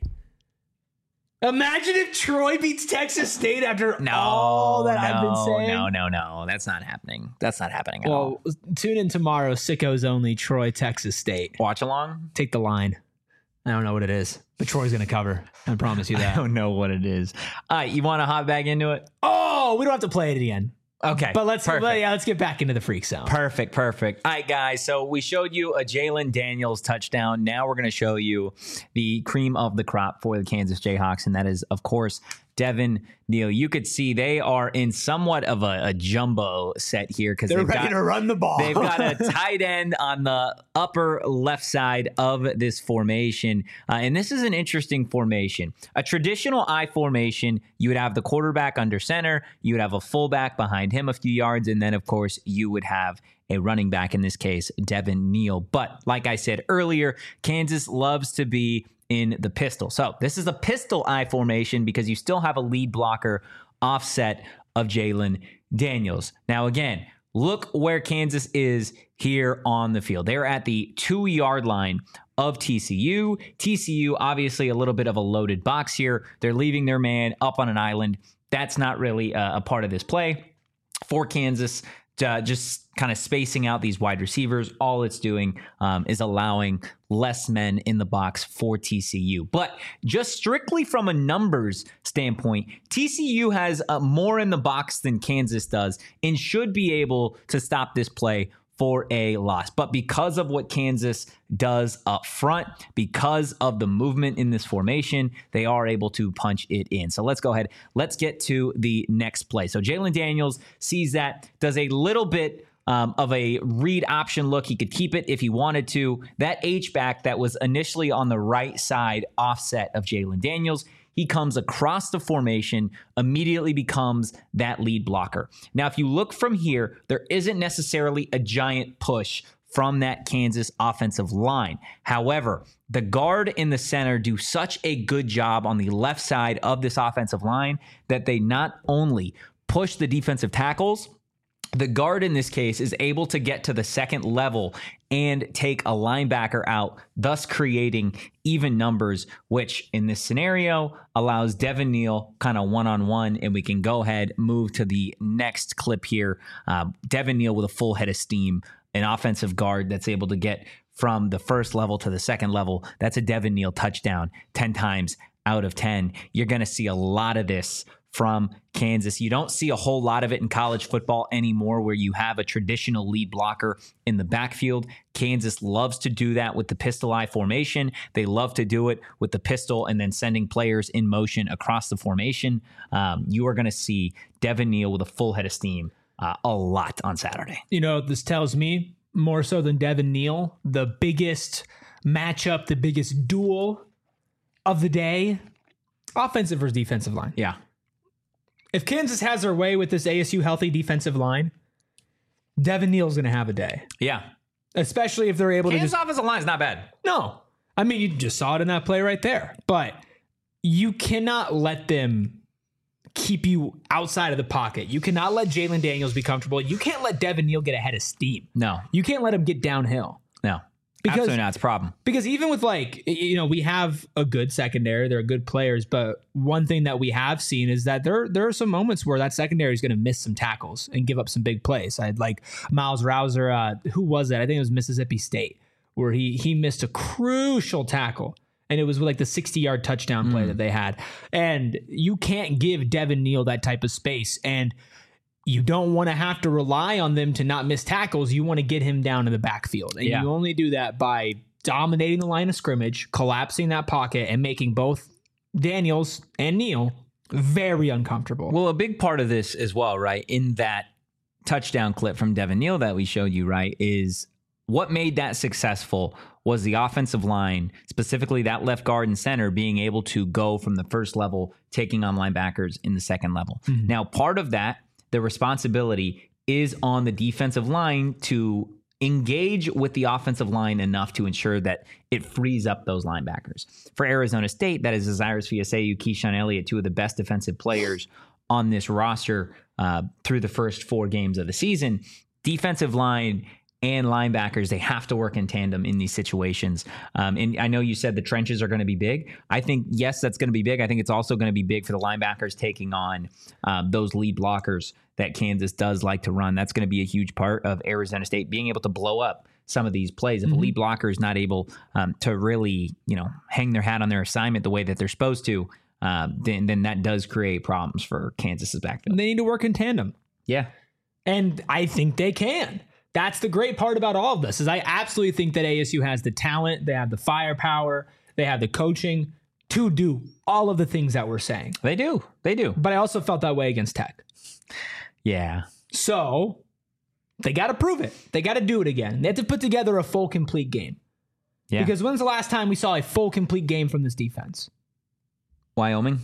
Imagine if Troy beats Texas State after all that I've been saying. No. That's not happening. That's not happening at all. Well, tune in tomorrow. Sickos only. Troy, Texas State. Watch along. Take the line. I don't know what it is, but Troy's going to cover. I promise you that. I don't know what it is. All right, you want to hop back into it? Oh, we don't have to play it again. Okay. But let's get back into the freak zone. Perfect. All right, guys. So we showed you a Jalen Daniels touchdown. Now we're going to show you the cream of the crop for the Kansas Jayhawks, and that is, of course, Devin Neal. You could see they are in somewhat of a jumbo set here because they're ready to run the ball. They've got a tight end on the upper left side of this formation. And this is an interesting formation. A traditional I formation, you would have the quarterback under center. You would have a fullback behind him a few yards. And then, of course, you would have a running back, in this case, Devin Neal. But like I said earlier, Kansas loves to be in the pistol. So this is a pistol I formation because you still have a lead blocker offset of Jalen Daniels. Now, again, look where Kansas is here on the field. They're at the 2-yard line of TCU. TCU, obviously a little bit of a loaded box here. They're leaving their man up on an island. That's not really a part of this play for Kansas. Just kind of spacing out these wide receivers. All it's doing is allowing less men in the box for TCU. But just strictly from a numbers standpoint, TCU has more in the box than Kansas does and should be able to stop this play for a loss. But because of what Kansas does up front, because of the movement in this formation, they are able to punch it in. So let's go ahead. Let's get to the next play. So Jalen Daniels sees that, does a little bit of a read option look. He could keep it if he wanted to. That H-back that was initially on the right side offset of Jalen Daniels, he comes across the formation, immediately becomes that lead blocker. Now, if you look from here, there isn't necessarily a giant push from that Kansas offensive line. However, the guard in the center do such a good job on the left side of this offensive line that they not only push the defensive tackles, the guard in this case is able to get to the second level and take a linebacker out, thus creating even numbers, which in this scenario allows Devin Neal kind of one-on-one, and we can go ahead, move to the next clip here. Devin Neal with a full head of steam, an offensive guard that's able to get from the first level to the second level. That's a Devin Neal touchdown 10 times out of 10. You're going to see a lot of this from Kansas. You don't see a whole lot of it in college football anymore, where you have a traditional lead blocker in the backfield. Kansas loves to do that with the pistol eye formation. They love to do it with the pistol and then sending players in motion across the formation. You are going to see Devin Neal with a full head of steam a lot on Saturday. You know, this tells me more so than Devin Neal, the biggest matchup, the biggest duel of the day, offensive versus defensive line. Yeah. If Kansas has their way with this ASU healthy defensive line, Devin Neal's going to have a day. Yeah. Especially if they're able Kansas to offensive line is not bad. No. I mean, you just saw it in that play right there. But you cannot let them keep you outside of the pocket. You cannot let Jalen Daniels be comfortable. You can't let Devin Neal get ahead of steam. No. You can't let him get downhill. No. Because, absolutely not. It's a problem. Because even with, like, you know, we have a good secondary. They're good players. But one thing that we have seen is that there are some moments where that secondary is going to miss some tackles and give up some big plays. I had like Miles Rouser. Who was that? I think it was Mississippi State, where he missed a crucial tackle. And it was like the 60-yard touchdown play that they had. And you can't give Devin Neal that type of space. And you don't want to have to rely on them to not miss tackles. You want to get him down in the backfield. And you only do that by dominating the line of scrimmage, collapsing that pocket, and making both Daniels and Neal very uncomfortable. Well, a big part of this as well, right, in that touchdown clip from Devin Neal that we showed you, right, is what made that successful was the offensive line, specifically that left guard and center, being able to go from the first level, taking on linebackers in the second level. Mm-hmm. Now, part of that, the responsibility is on the defensive line to engage with the offensive line enough to ensure that it frees up those linebackers. For Arizona State, that is Cyrus Fiaseu, Keyshawn Elliott, two of the best defensive players on this roster through the first 4 games of the season. Defensive line and linebackers, they have to work in tandem in these situations. And I know you said the trenches are going to be big. I think, yes, that's going to be big. I think it's also going to be big for the linebackers taking on those lead blockers that Kansas does like to run. That's going to be a huge part of Arizona State being able to blow up some of these plays. If a lead blocker is not able to really, hang their hat on their assignment the way that they're supposed to, then that does create problems for Kansas's backfield. They need to work in tandem. Yeah. And I think they can. That's the great part about all of this, is I absolutely think that ASU has the talent, they have the firepower, they have the coaching to do all of the things that we're saying. They do. But I also felt that way against Tech. Yeah. So they got to prove it. They got to do it again. They have to put together a full, complete game. Yeah. Because when's the last time we saw a full, complete game from this defense? Wyoming.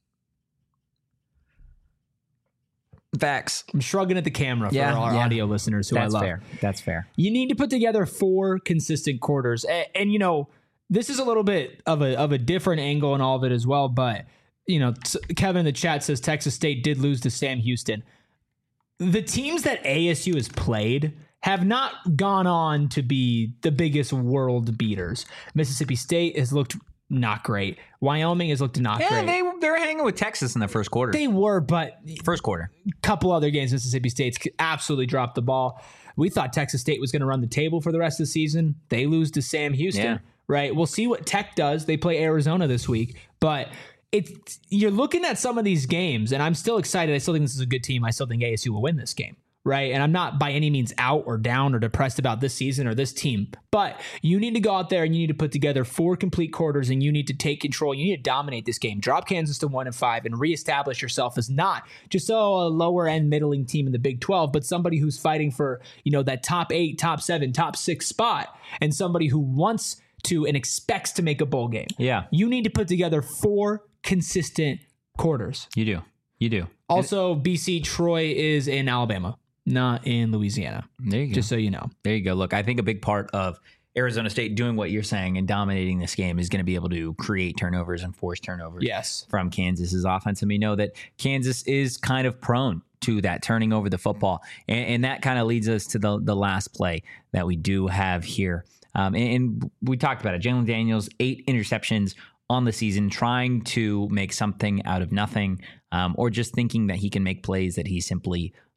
Facts. I'm shrugging at the camera for our audio listeners who I love. That's fair. You need to put together 4 consistent quarters. And this is a little bit of a different angle in all of it as well. But, Kevin in the chat says Texas State did lose to Sam Houston. The teams that ASU has played have not gone on to be the biggest world beaters. Mississippi State has looked not great. Wyoming has looked not great. Yeah, they were hanging with Texas in the first quarter. They were, but first quarter. A couple other games, Mississippi State's absolutely dropped the ball. We thought Texas State was going to run the table for the rest of the season. They lose to Sam Houston, right? We'll see what Tech does. They play Arizona this week, but you're looking at some of these games, and I'm still excited. I still think this is a good team. I still think ASU will win this game. Right. And I'm not by any means out or down or depressed about this season or this team, but you need to go out there and you need to put together 4 complete quarters and you need to take control. You need to dominate this game, drop Kansas to 1-5 and reestablish yourself as not just a lower end middling team in the Big 12, but somebody who's fighting for, that top 8, top 7, top 6 spot, and somebody who wants to and expects to make a bowl game. Yeah. You need to put together 4 consistent quarters. You do. Also, BC Troy is in Alabama, not in Louisiana. There you go. Just so you know. There you go. Look, I think a big part of Arizona State doing what you're saying and dominating this game is going to be able to create turnovers and force turnovers from Kansas's offense. And we know that Kansas is kind of prone to that, turning over the football. And that kind of leads us to the last play that we do have here. And we talked about it. Jalen Daniels, 8 interceptions on the season, trying to make something out of nothing, or just thinking that he can make plays that he simply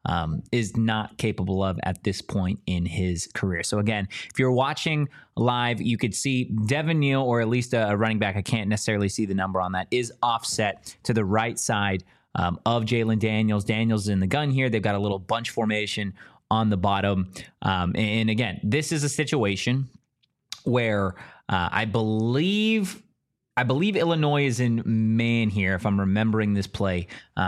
is not capable of at this point in his career. So again, if you're watching live, you could see Devin Neal, or at least a running back, I can't necessarily see the number on that, is offset to the right side of Jaylen Daniels. Daniels is in the gun here. They've got a little bunch formation on the bottom. And again, this is a situation where I believe Illinois is in man here, if I'm remembering this play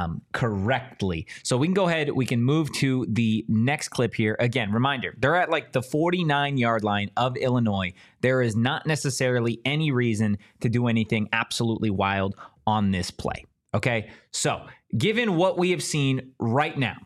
correctly. So we can go ahead. We can move to the next clip here. Again, reminder, they're at like the 49-yard line of Illinois. There is not necessarily any reason to do anything absolutely wild on this play. Okay, so given what we have seen right now,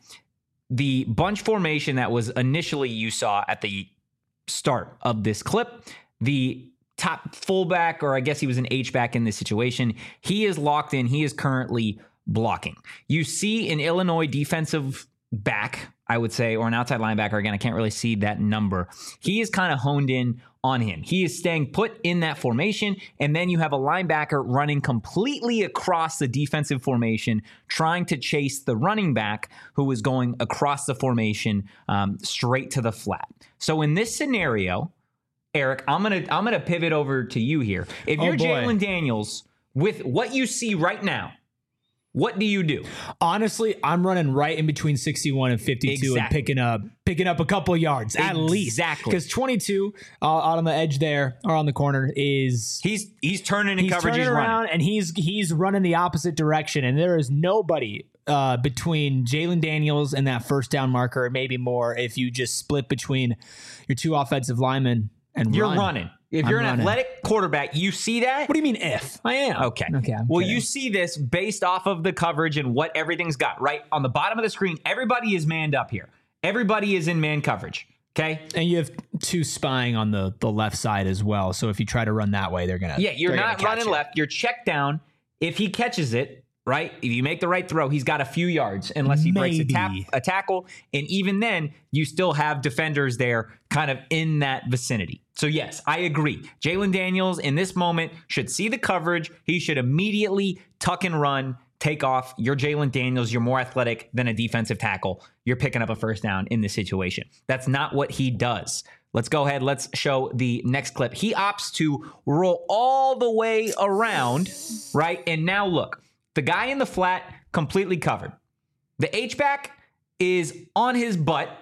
the bunch formation that was initially you saw at the start of this clip, the top fullback, or I guess he was an H-back in this situation, he is locked in. He is currently blocking. You see an Illinois defensive back, I would say, or an outside linebacker. Again, I can't really see that number. He is kind of honed in on him. He is staying put in that formation, and then you have a linebacker running completely across the defensive formation, trying to chase the running back who is going across the formation straight to the flat. So in this scenario, Eric, I'm gonna pivot over to you here. If you're Jaylen Daniels, with what you see right now, what do you do? Honestly, I'm running right in between 61 and 52 and picking up a couple of yards at least. Exactly. Because 22 out on the edge there, or on the corner, is he's turning in coverage. He's turning around and he's running the opposite direction, and there is nobody between Jaylen Daniels and that first down marker, or maybe more if you just split between your two offensive linemen. And you're running. If you're an athletic quarterback, you see that? What do you mean if? I am. Okay. Well, you see this based off of the coverage and what everything's got, right? On the bottom of the screen, everybody is manned up here. Everybody is in man coverage, okay? And you have two spying on the left side as well. So if you try to run that way, they're going to... Yeah, you're not running left. You're checked down. If he catches it, right? If you make the right throw, he's got a few yards unless he breaks a tackle. And even then, you still have defenders there kind of in that vicinity. So yes, I agree. Jaylen Daniels in this moment should see the coverage. He should immediately tuck and run, take off. You're Jaylen Daniels. You're more athletic than a defensive tackle. You're picking up a first down in this situation. That's not what he does. Let's go ahead. Let's show the next clip. He opts to roll all the way around, right? And now look. The guy in the flat, completely covered. The H-back is on his butt,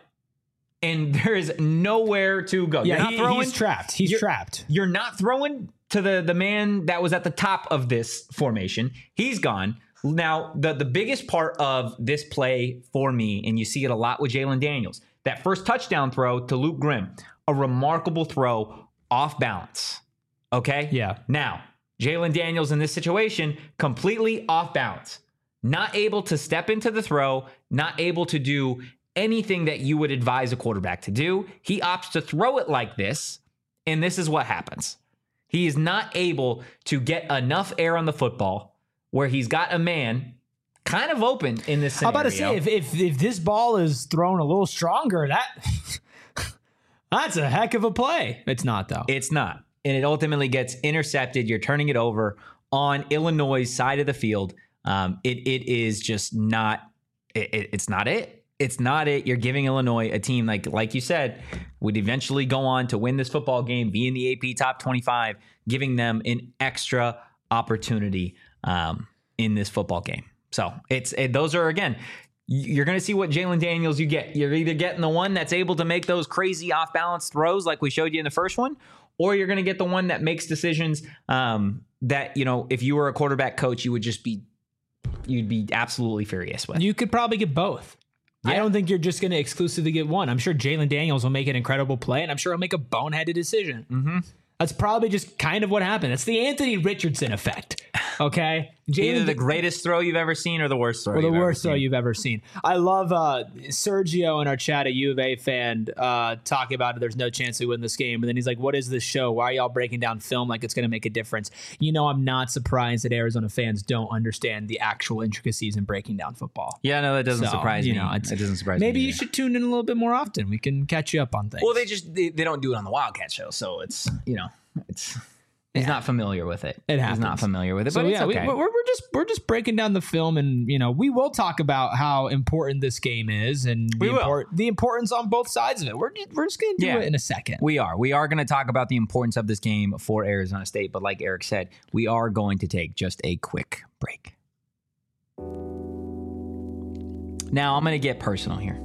and there is nowhere to go. Yeah, he's trapped. He's trapped. You're not throwing to the man that was at the top of this formation. He's gone. Now, the biggest part of this play for me, and you see it a lot with Jaylen Daniels, that first touchdown throw to Luke Grimm, a remarkable throw off balance. Okay? Yeah. Now, Jaylen Daniels in this situation, completely off balance, not able to step into the throw, not able to do anything that you would advise a quarterback to do. He opts to throw it like this, and this is what happens. He is not able to get enough air on the football where he's got a man kind of open in this scenario. I'm about to say, if this ball is thrown a little stronger, that's a heck of a play. It's not, though. It's not. And it ultimately gets intercepted. You're turning it over on Illinois' side of the field. It is just not. It's not it. It's not it. You're giving Illinois, a team like you said, would eventually go on to win this football game, be in the AP top 25, giving them an extra opportunity in this football game. So those are, again, you're going to see what Jaylen Daniels you get. You're either getting the one that's able to make those crazy off balance throws like we showed you in the first one, or you're going to get the one that makes decisions that, if you were a quarterback coach, you'd be absolutely furious with. You could probably get both. Yeah. I don't think you're just going to exclusively get one. I'm sure Jaylen Daniels will make an incredible play, and I'm sure he'll make a boneheaded decision. Mm-hmm. That's probably just kind of what happened. It's the Anthony Richardson effect. Okay, either the greatest throw you've ever seen or the worst throw. Or the worst throw you've ever seen. I love Sergio in our chat, a U of A fan, talking about it. There's no chance we win this game, and then he's like, "What is this show? Why are y'all breaking down film like it's going to make a difference?" I'm not surprised that Arizona fans don't understand the actual intricacies in breaking down football. Yeah, no, that doesn't surprise me. It doesn't surprise me. Maybe you should tune in a little bit more often. We can catch you up on things. Well, they don't do it on the Wildcat show, so it's it's. He's not familiar with it. It happens. He's not familiar with it, So but it's yeah, okay. we're just breaking down the film, and we will talk about how important this game is and the importance on both sides of it. We're just gonna do it in a second. We are going to talk about the importance of this game for Arizona State, but like Eric said, we are going to take just a quick break. Now I'm going to get personal here.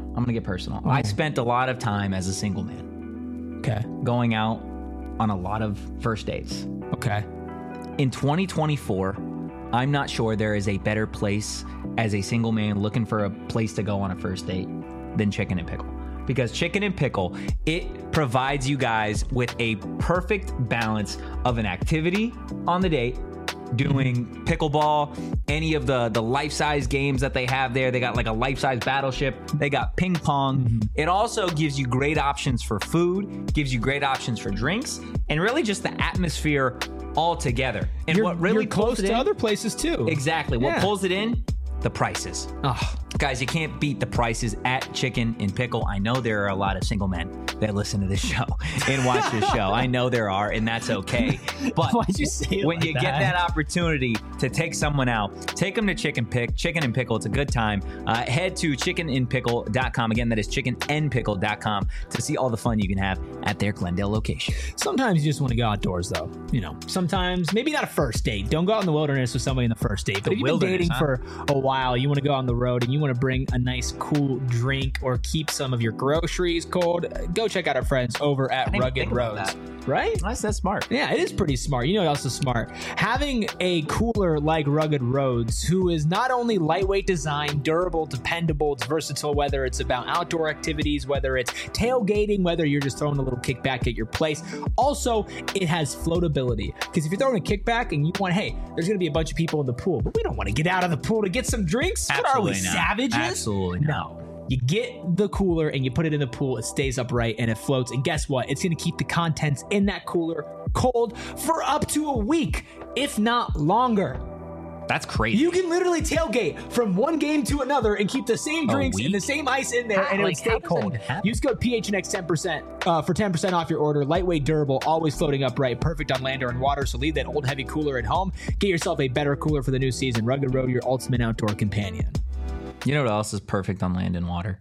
I spent a lot of time as a single man. Okay. Going out on a lot of first dates. Okay. In 2024, I'm not sure there is a better place as a single man looking for a place to go on a first date than Chicken and Pickle. Because Chicken and Pickle, it provides you guys with a perfect balance of an activity on the date, doing pickleball, any of the life-size games that they have there. They got like a life-size battleship. They got ping pong. It also gives you great options for food, gives you great options for drinks, and really just the atmosphere all together. And what really you're close to other places too. Exactly. What pulls it in? The prices. Oh. Guys, you can't beat the prices at Chicken and Pickle. I know there are a lot of single men that listen to this show and watch this show. I know there are, and that's okay. But why'd you say it when like you that? get that opportunity to take someone out, take them to Chicken and Pickle. It's a good time. Head to chickenandpickle.com. Again, that is chickenandpickle.com to see all the fun you can have at their Glendale location. Sometimes you just want to go outdoors, though. Sometimes maybe not a first date. Don't go out in the wilderness with somebody in the first date. But if you've been dating for a while, you want to go on the road and you want to bring a nice cool drink or keep some of your groceries cold, go check out our friends over at Rugged Roads. Right? That's smart. Yeah, it is pretty smart. You know what else is smart? Having a cooler like Rugged Roads, who is not only lightweight design, durable, dependable, it's versatile, whether it's about outdoor activities, whether it's tailgating, whether you're just throwing a little kickback at your place. Also, it has floatability. Because if you're throwing a kickback and you want, hey, there's going to be a bunch of people in the pool, but we don't want to get out of the pool to get some drinks. Absolutely what are we, not. savages? Absolutely not. No. You get the cooler and you put it in the pool, it stays upright and it floats. And guess what? It's going to keep the contents in that cooler cold for up to a week, if not longer. That's crazy. You can literally tailgate from one game to another and keep the same drinks and the same ice in there, and it would stay cold. Use code PHNX 10% for 10% off your order. Lightweight, durable, always floating upright, perfect on land or in water. So leave that old heavy cooler at home. Get yourself a better cooler for the new season. Rugged Road, your ultimate outdoor companion. You know what else is perfect on land and water?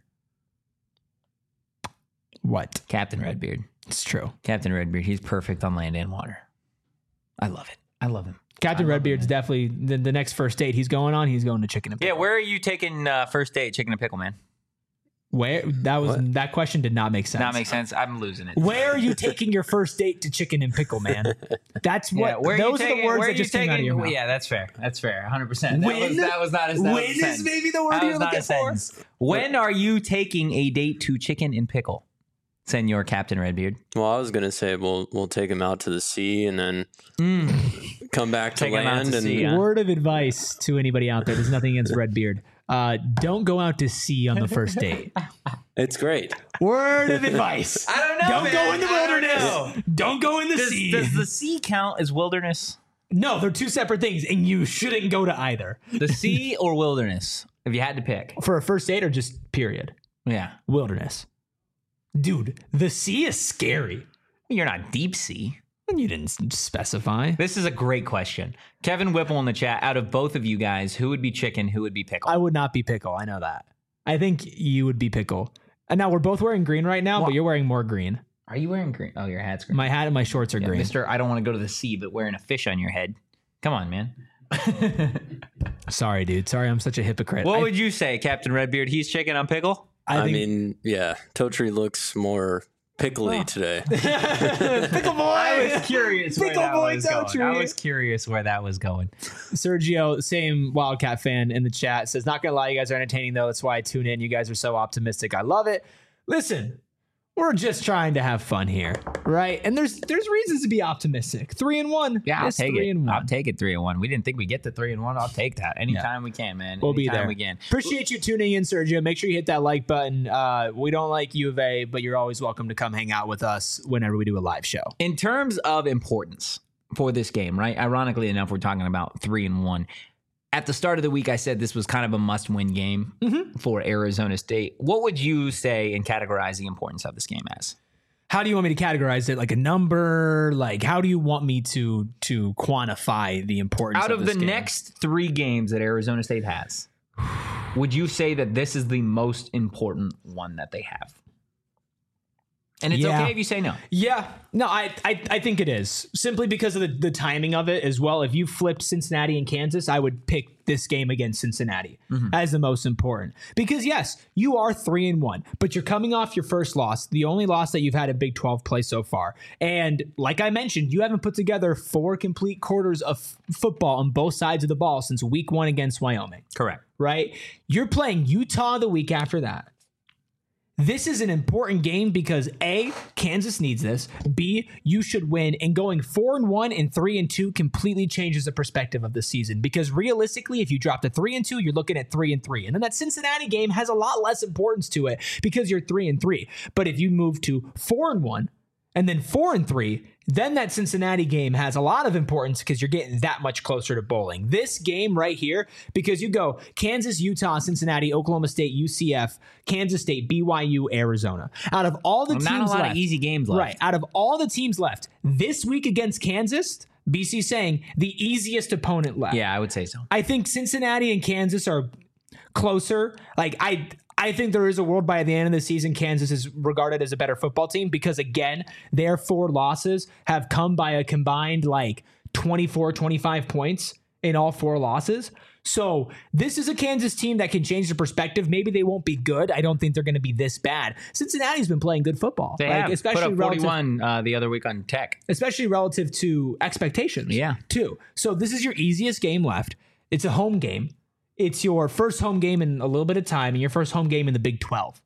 What? Captain Redbeard. It's true. Captain Redbeard. He's perfect on land and water. I love it. I love him. Captain Redbeard's definitely the next first date he's going on. He's going to Chicken and Pickle. Yeah, where are you taking first date, Chicken and Pickle, man? Where that question did not make sense. Not make sense. I'm losing it. Where are you taking your first date to Chicken and Pickle, man? That's what. Those are the words that just came out of your mouth. Yeah, that's fair. That's fair. 100%. That was not a When sentence. is maybe the word you're looking for? When are you taking a date to Chicken and Pickle, Senor Captain Redbeard? Well, I was gonna say we'll take him out to the sea and then come back to Take him out land. to And sea, huh? Word of advice to anybody out there. There's nothing against Redbeard. Don't go out to sea on the first date. it's great. Word of advice. I don't know. Don't go in the wilderness. Don't go in the sea. Does the sea count as wilderness? No, they're two separate things, and you shouldn't go to either. The sea or wilderness? If you had to pick. For a first date or just period? Yeah. Wilderness. Dude, the sea is scary. You're not deep sea. You didn't specify. This is a great question. Kevin Whipple in the chat, out of both of you guys, who would be Chicken, who would be Pickle? I would not be Pickle. I know that. I think you would be Pickle. And now we're both wearing green right now, but you're wearing more green. Are you wearing green? Oh, your hat's green. My hat and my shorts are green. Mister, I don't want to go to the sea, but wearing a fish on your head. Come on, man. Sorry, dude. Sorry, I'm such a hypocrite. What would you say, Captain Redbeard? He's Chicken on Pickle? I mean, yeah, Totri looks more pickly today. Pickle boy. I was curious where Pickle that boy was going. Totri. I was curious where that was going. Sergio, same Wildcat fan in the chat, says, not gonna lie, you guys are entertaining though. That's why I tune in. You guys are so optimistic. I love it. Listen, we're just trying to have fun here, right? And there's reasons to be optimistic. 3-1. Yeah, I'll It's take 3-1. it. I'll take it 3-1. We didn't think we'd get to 3-1. I'll take that anytime we can, man. We'll be there. We can. Appreciate you tuning in, Sergio. Make sure you hit that like button. We don't like U of A, but you're always welcome to come hang out with us whenever we do a live show. In terms of importance for this game, right? Ironically enough, we're talking about 3-1. At the start of the week, I said this was kind of a must-win game for Arizona State. What would you say and categorize the importance of this game as? how do you want me to categorize it? Like a number? Like how do you want me to quantify the importance Out of this the game? next 3 games that Arizona State has, would you say that this is the most important one that they have? And it's Yeah. okay if you say no. Yeah, no, I think it is simply because of the timing of it as well. If you flipped Cincinnati and Kansas, I would pick this game against Cincinnati as the most important because yes, you are 3-1, but you're coming off your first loss, the only loss that you've had in Big 12 play so far. And like I mentioned, you haven't put together 4 complete quarters of football on both sides of the ball since week 1 against Wyoming. Correct. Right? You're playing Utah the week after that. This is an important game because A, Kansas needs this. B, you should win. And going 4-1 and 3-2 completely changes the perspective of the season. Because realistically, if you drop to 3-2, you're looking at 3-3. And then that Cincinnati game has a lot less importance to it because you're 3-3. But if you move to 4-1 and then 4-3, then that Cincinnati game has a lot of importance because you're getting that much closer to bowling. This game right here, because you go Kansas, Utah, Cincinnati, Oklahoma State, UCF, Kansas State, BYU, Arizona. Out of all the teams Not a lot left, of easy games left. right? Out of all the teams left this week against Kansas, BC saying the easiest opponent left. Yeah, I would say so. I think Cincinnati and Kansas are closer. Like I think there is a world by the end of the season, Kansas is regarded as a better football team because, again, their 4 losses have come by a combined like 24, 25 points in all 4 losses. So this is a Kansas team that can change the perspective. Maybe they won't be good. I don't think they're going to be this bad. Cincinnati's been playing good football. They like, have especially put up 41 the other week on Tech. especially relative to expectations. Yeah. Too. So this is your easiest game left. It's a home game. It's your first home game in a little bit of time and your first home game in the Big 12.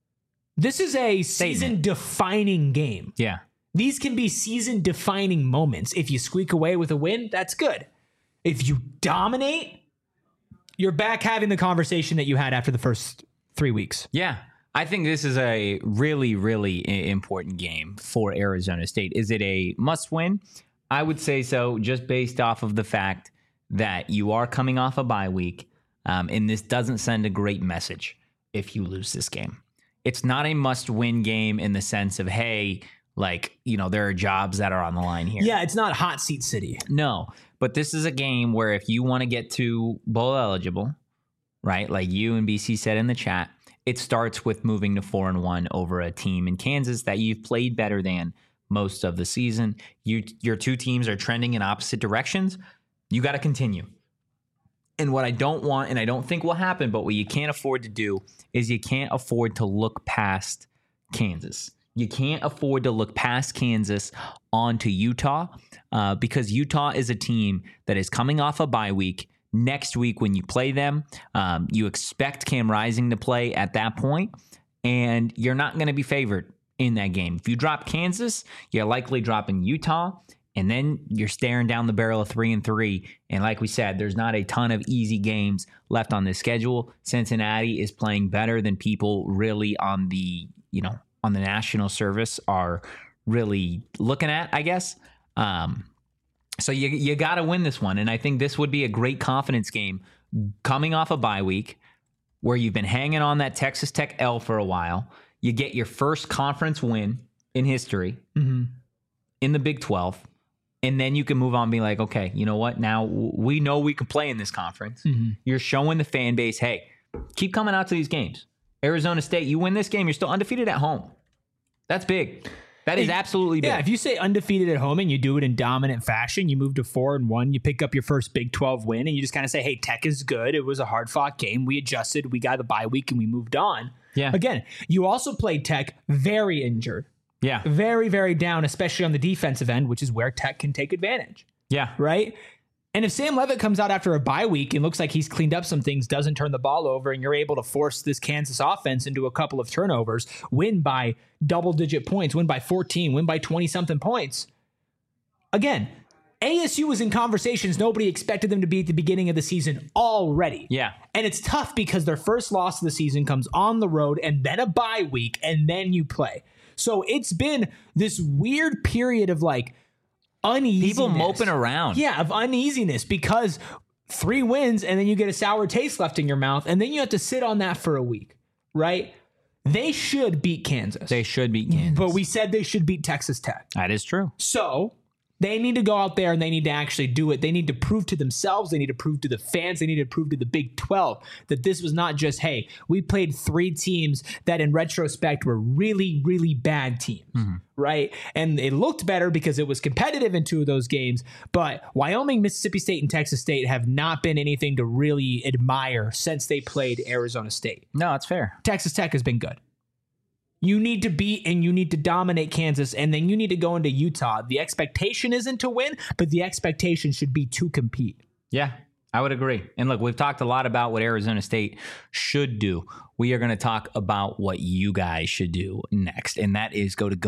This is a season-defining game. Yeah. These can be season-defining moments. If you squeak away with a win, that's good. If you dominate, you're back having the conversation that you had after the first 3 weeks. Yeah. I think this is a really, really important game for Arizona State. Is it a must-win? I would say so, just based off of the fact that you are coming off a bye week. And this doesn't send a great message if you lose this game. It's not a must-win game in the sense of, hey, like, you know, there are jobs that are on the line here. Yeah, it's not hot seat city. No, but this is a game where if you want to get to bowl eligible, right, like you and BC said in the chat, it starts with moving to 4-1 over a team in Kansas that you've played better than most of the season. Your 2 teams are trending in opposite directions. You got to continue. And what I don't want, and I don't think will happen, but what you can't afford to do is you can't afford to look past Kansas. You can't afford to look past Kansas onto Utah because Utah is a team that is coming off a bye week. Next week when you play them, you expect Cam Rising to play at that point, and you're not going to be favored in that game. If you drop Kansas, you're likely dropping Utah. And then you're staring down the barrel of 3-3. And like we said, there's not a ton of easy games left on this schedule. Cincinnati is playing better than people really on the, you know, on the national service are really looking at, I guess. So you got to win this one. And I think this would be a great confidence game coming off a bye week where you've been hanging on that Texas Tech L for a while. You get your first conference win in history in the Big 12. And then you can move on and be like, okay, you know what? Now we know we can play in this conference. You're showing the fan base, hey, keep coming out to these games. Arizona State, you win this game, you're still undefeated at home. That's big. That is absolutely big. Yeah, if you say undefeated at home and you do it in dominant fashion, you move to 4-1, you pick up your first Big 12 win, and you just kind of say, hey, Tech is good. It was a hard-fought game. We adjusted. We got the bye week, and we moved on. Yeah. Again, you also played Tech very injured. Yeah. Very, very down, especially on the defensive end, which is where Tech can take advantage. Yeah. Right? And if Sam Leavitt comes out after a bye week and looks like he's cleaned up some things, doesn't turn the ball over, and you're able to force this Kansas offense into a couple of turnovers, win by double-digit points, win by 14, win by 20-something points. Again, ASU was in conversations nobody expected them to be at the beginning of the season already. Yeah. And it's tough because their first loss of the season comes on the road and then a bye week and then you play. So it's been this weird period of like uneasiness. People moping around. Yeah, of uneasiness because 3 wins and then you get a sour taste left in your mouth and then you have to sit on that for a week, right? They should beat Kansas. They should beat Kansas. But we said they should beat Texas Tech. That is true. So they need to go out there and they need to actually do it. They need to prove to themselves. They need to prove to the fans. They need to prove to the Big 12 that this was not just, hey, we played 3 teams that in retrospect were really, really bad teams, right? And it looked better because it was competitive in 2 of those games. But Wyoming, Mississippi State, and Texas State have not been anything to really admire since they played Arizona State. No, it's fair. Texas Tech has been good. You need to beat and you need to dominate Kansas, and then you need to go into Utah. The expectation isn't to win, but the expectation should be to compete. Yeah, I would agree. And look, we've talked a lot about what Arizona State should do. We are going to talk about what you guys should do next, and that is go to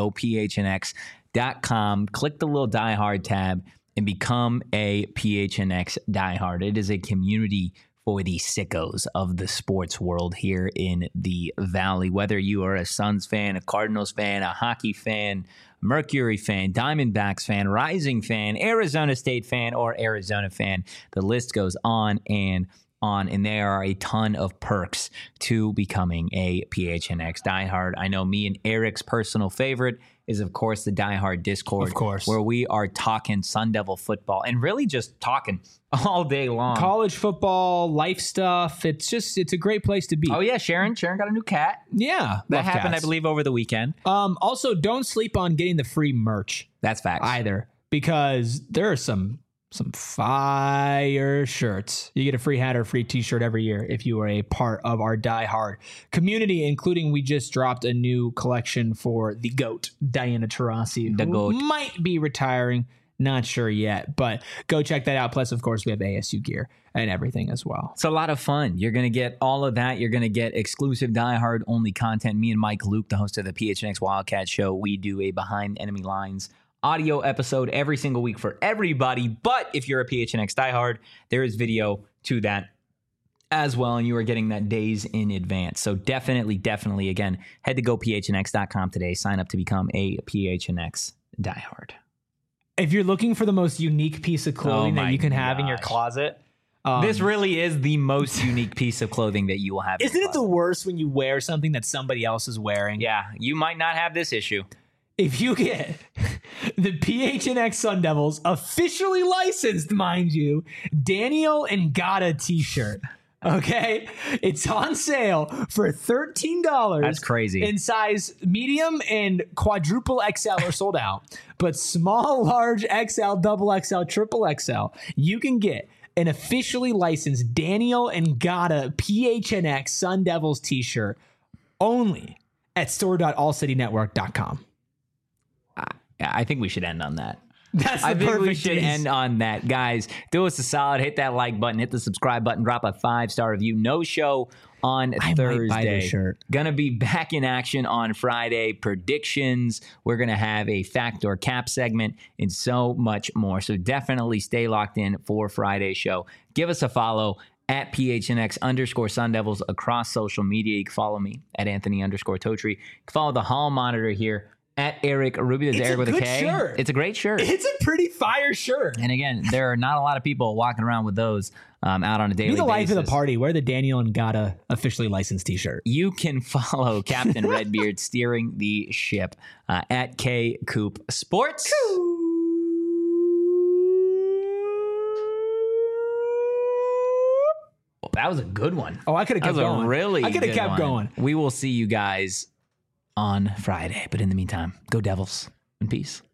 gophnx.com, click the little Die Hard tab, and become a PHNX diehard. It is a community for the sickos of the sports world here in the Valley. Whether you are a Suns fan, a Cardinals fan, a hockey fan, Mercury fan, Diamondbacks fan, Rising fan, Arizona State fan, or Arizona fan, the list goes on and on, and there are a ton of perks to becoming a PHNX diehard. I know me and Eric's personal favorite is, of course, the Die Hard Discord, Of course. where we are talking Sun Devil football and really just talking all day long. College football, life stuff. It's a great place to be. Oh, yeah, Sharon got a new cat. Yeah. That love happened, cats. I believe, over the weekend. Also, don't sleep on getting the free merch That's facts. either, because there are some fire shirts. You get a free hat or a free t-shirt every year if you are a part of our Die Hard community, including we just dropped a new collection for the GOAT, Diana Taurasi, The who GOAT. might be retiring. Not sure yet, but go check that out. Plus, of course, we have ASU gear and everything as well. It's a lot of fun. You're going to get all of that. You're going to get exclusive Die Hard only content. Me and Mike Luke, the host of the PHNX Wildcat Show, we do a Behind Enemy Lines audio episode every single week for everybody. But if you're a PHNX diehard, there is video to that as well, and you are getting that days in advance. So definitely, again, head to gophnx.com today. Sign up to become a PHNX diehard. If you're looking for the most unique piece of clothing Oh that you can have in your gosh. closet, This really is the most unique piece of clothing that you will have. in isn't your it the closet. worst when you wear something that somebody else is wearing? Yeah, you might not have this issue. If you get the PHNX Sun Devils officially licensed, mind you, Daniel Ngata t-shirt, okay? It's on sale for $13. That's crazy. In size medium and quadruple XL are sold out, but small, large, XL, double XL, triple XL, you can get an officially licensed Daniel Ngata PHNX Sun Devils t-shirt only at store.allcitynetwork.com. I think we should end on that. That's the I think we perfect should tease. end on that. Guys, do us a solid. Hit that like button. Hit the subscribe button. Drop a 5-star review. No show on I might Thursday. buy this shirt. Gonna be back in action on Friday. Predictions. We're gonna have a fact or cap segment and so much more. So definitely stay locked in for Friday's show. Give us a follow at PHNX_Sun Devils across social media. You can follow me at Anthony_Totri. You can follow the hall monitor here at Eric Rubio. There's It's Eric a with a good K. shirt. It's a great shirt. It's a pretty fire shirt. And again, there are not a lot of people walking around with those out on a daily Be the life basis. of the party. Wear the Daniel Ngata officially licensed t-shirt. You can follow Captain Redbeard steering the ship at K Coop Sports. That was a good one. Oh, I could have That kept was going. a really I could have good kept one. going. We will see you guys on Friday. But in the meantime, go Devils and peace.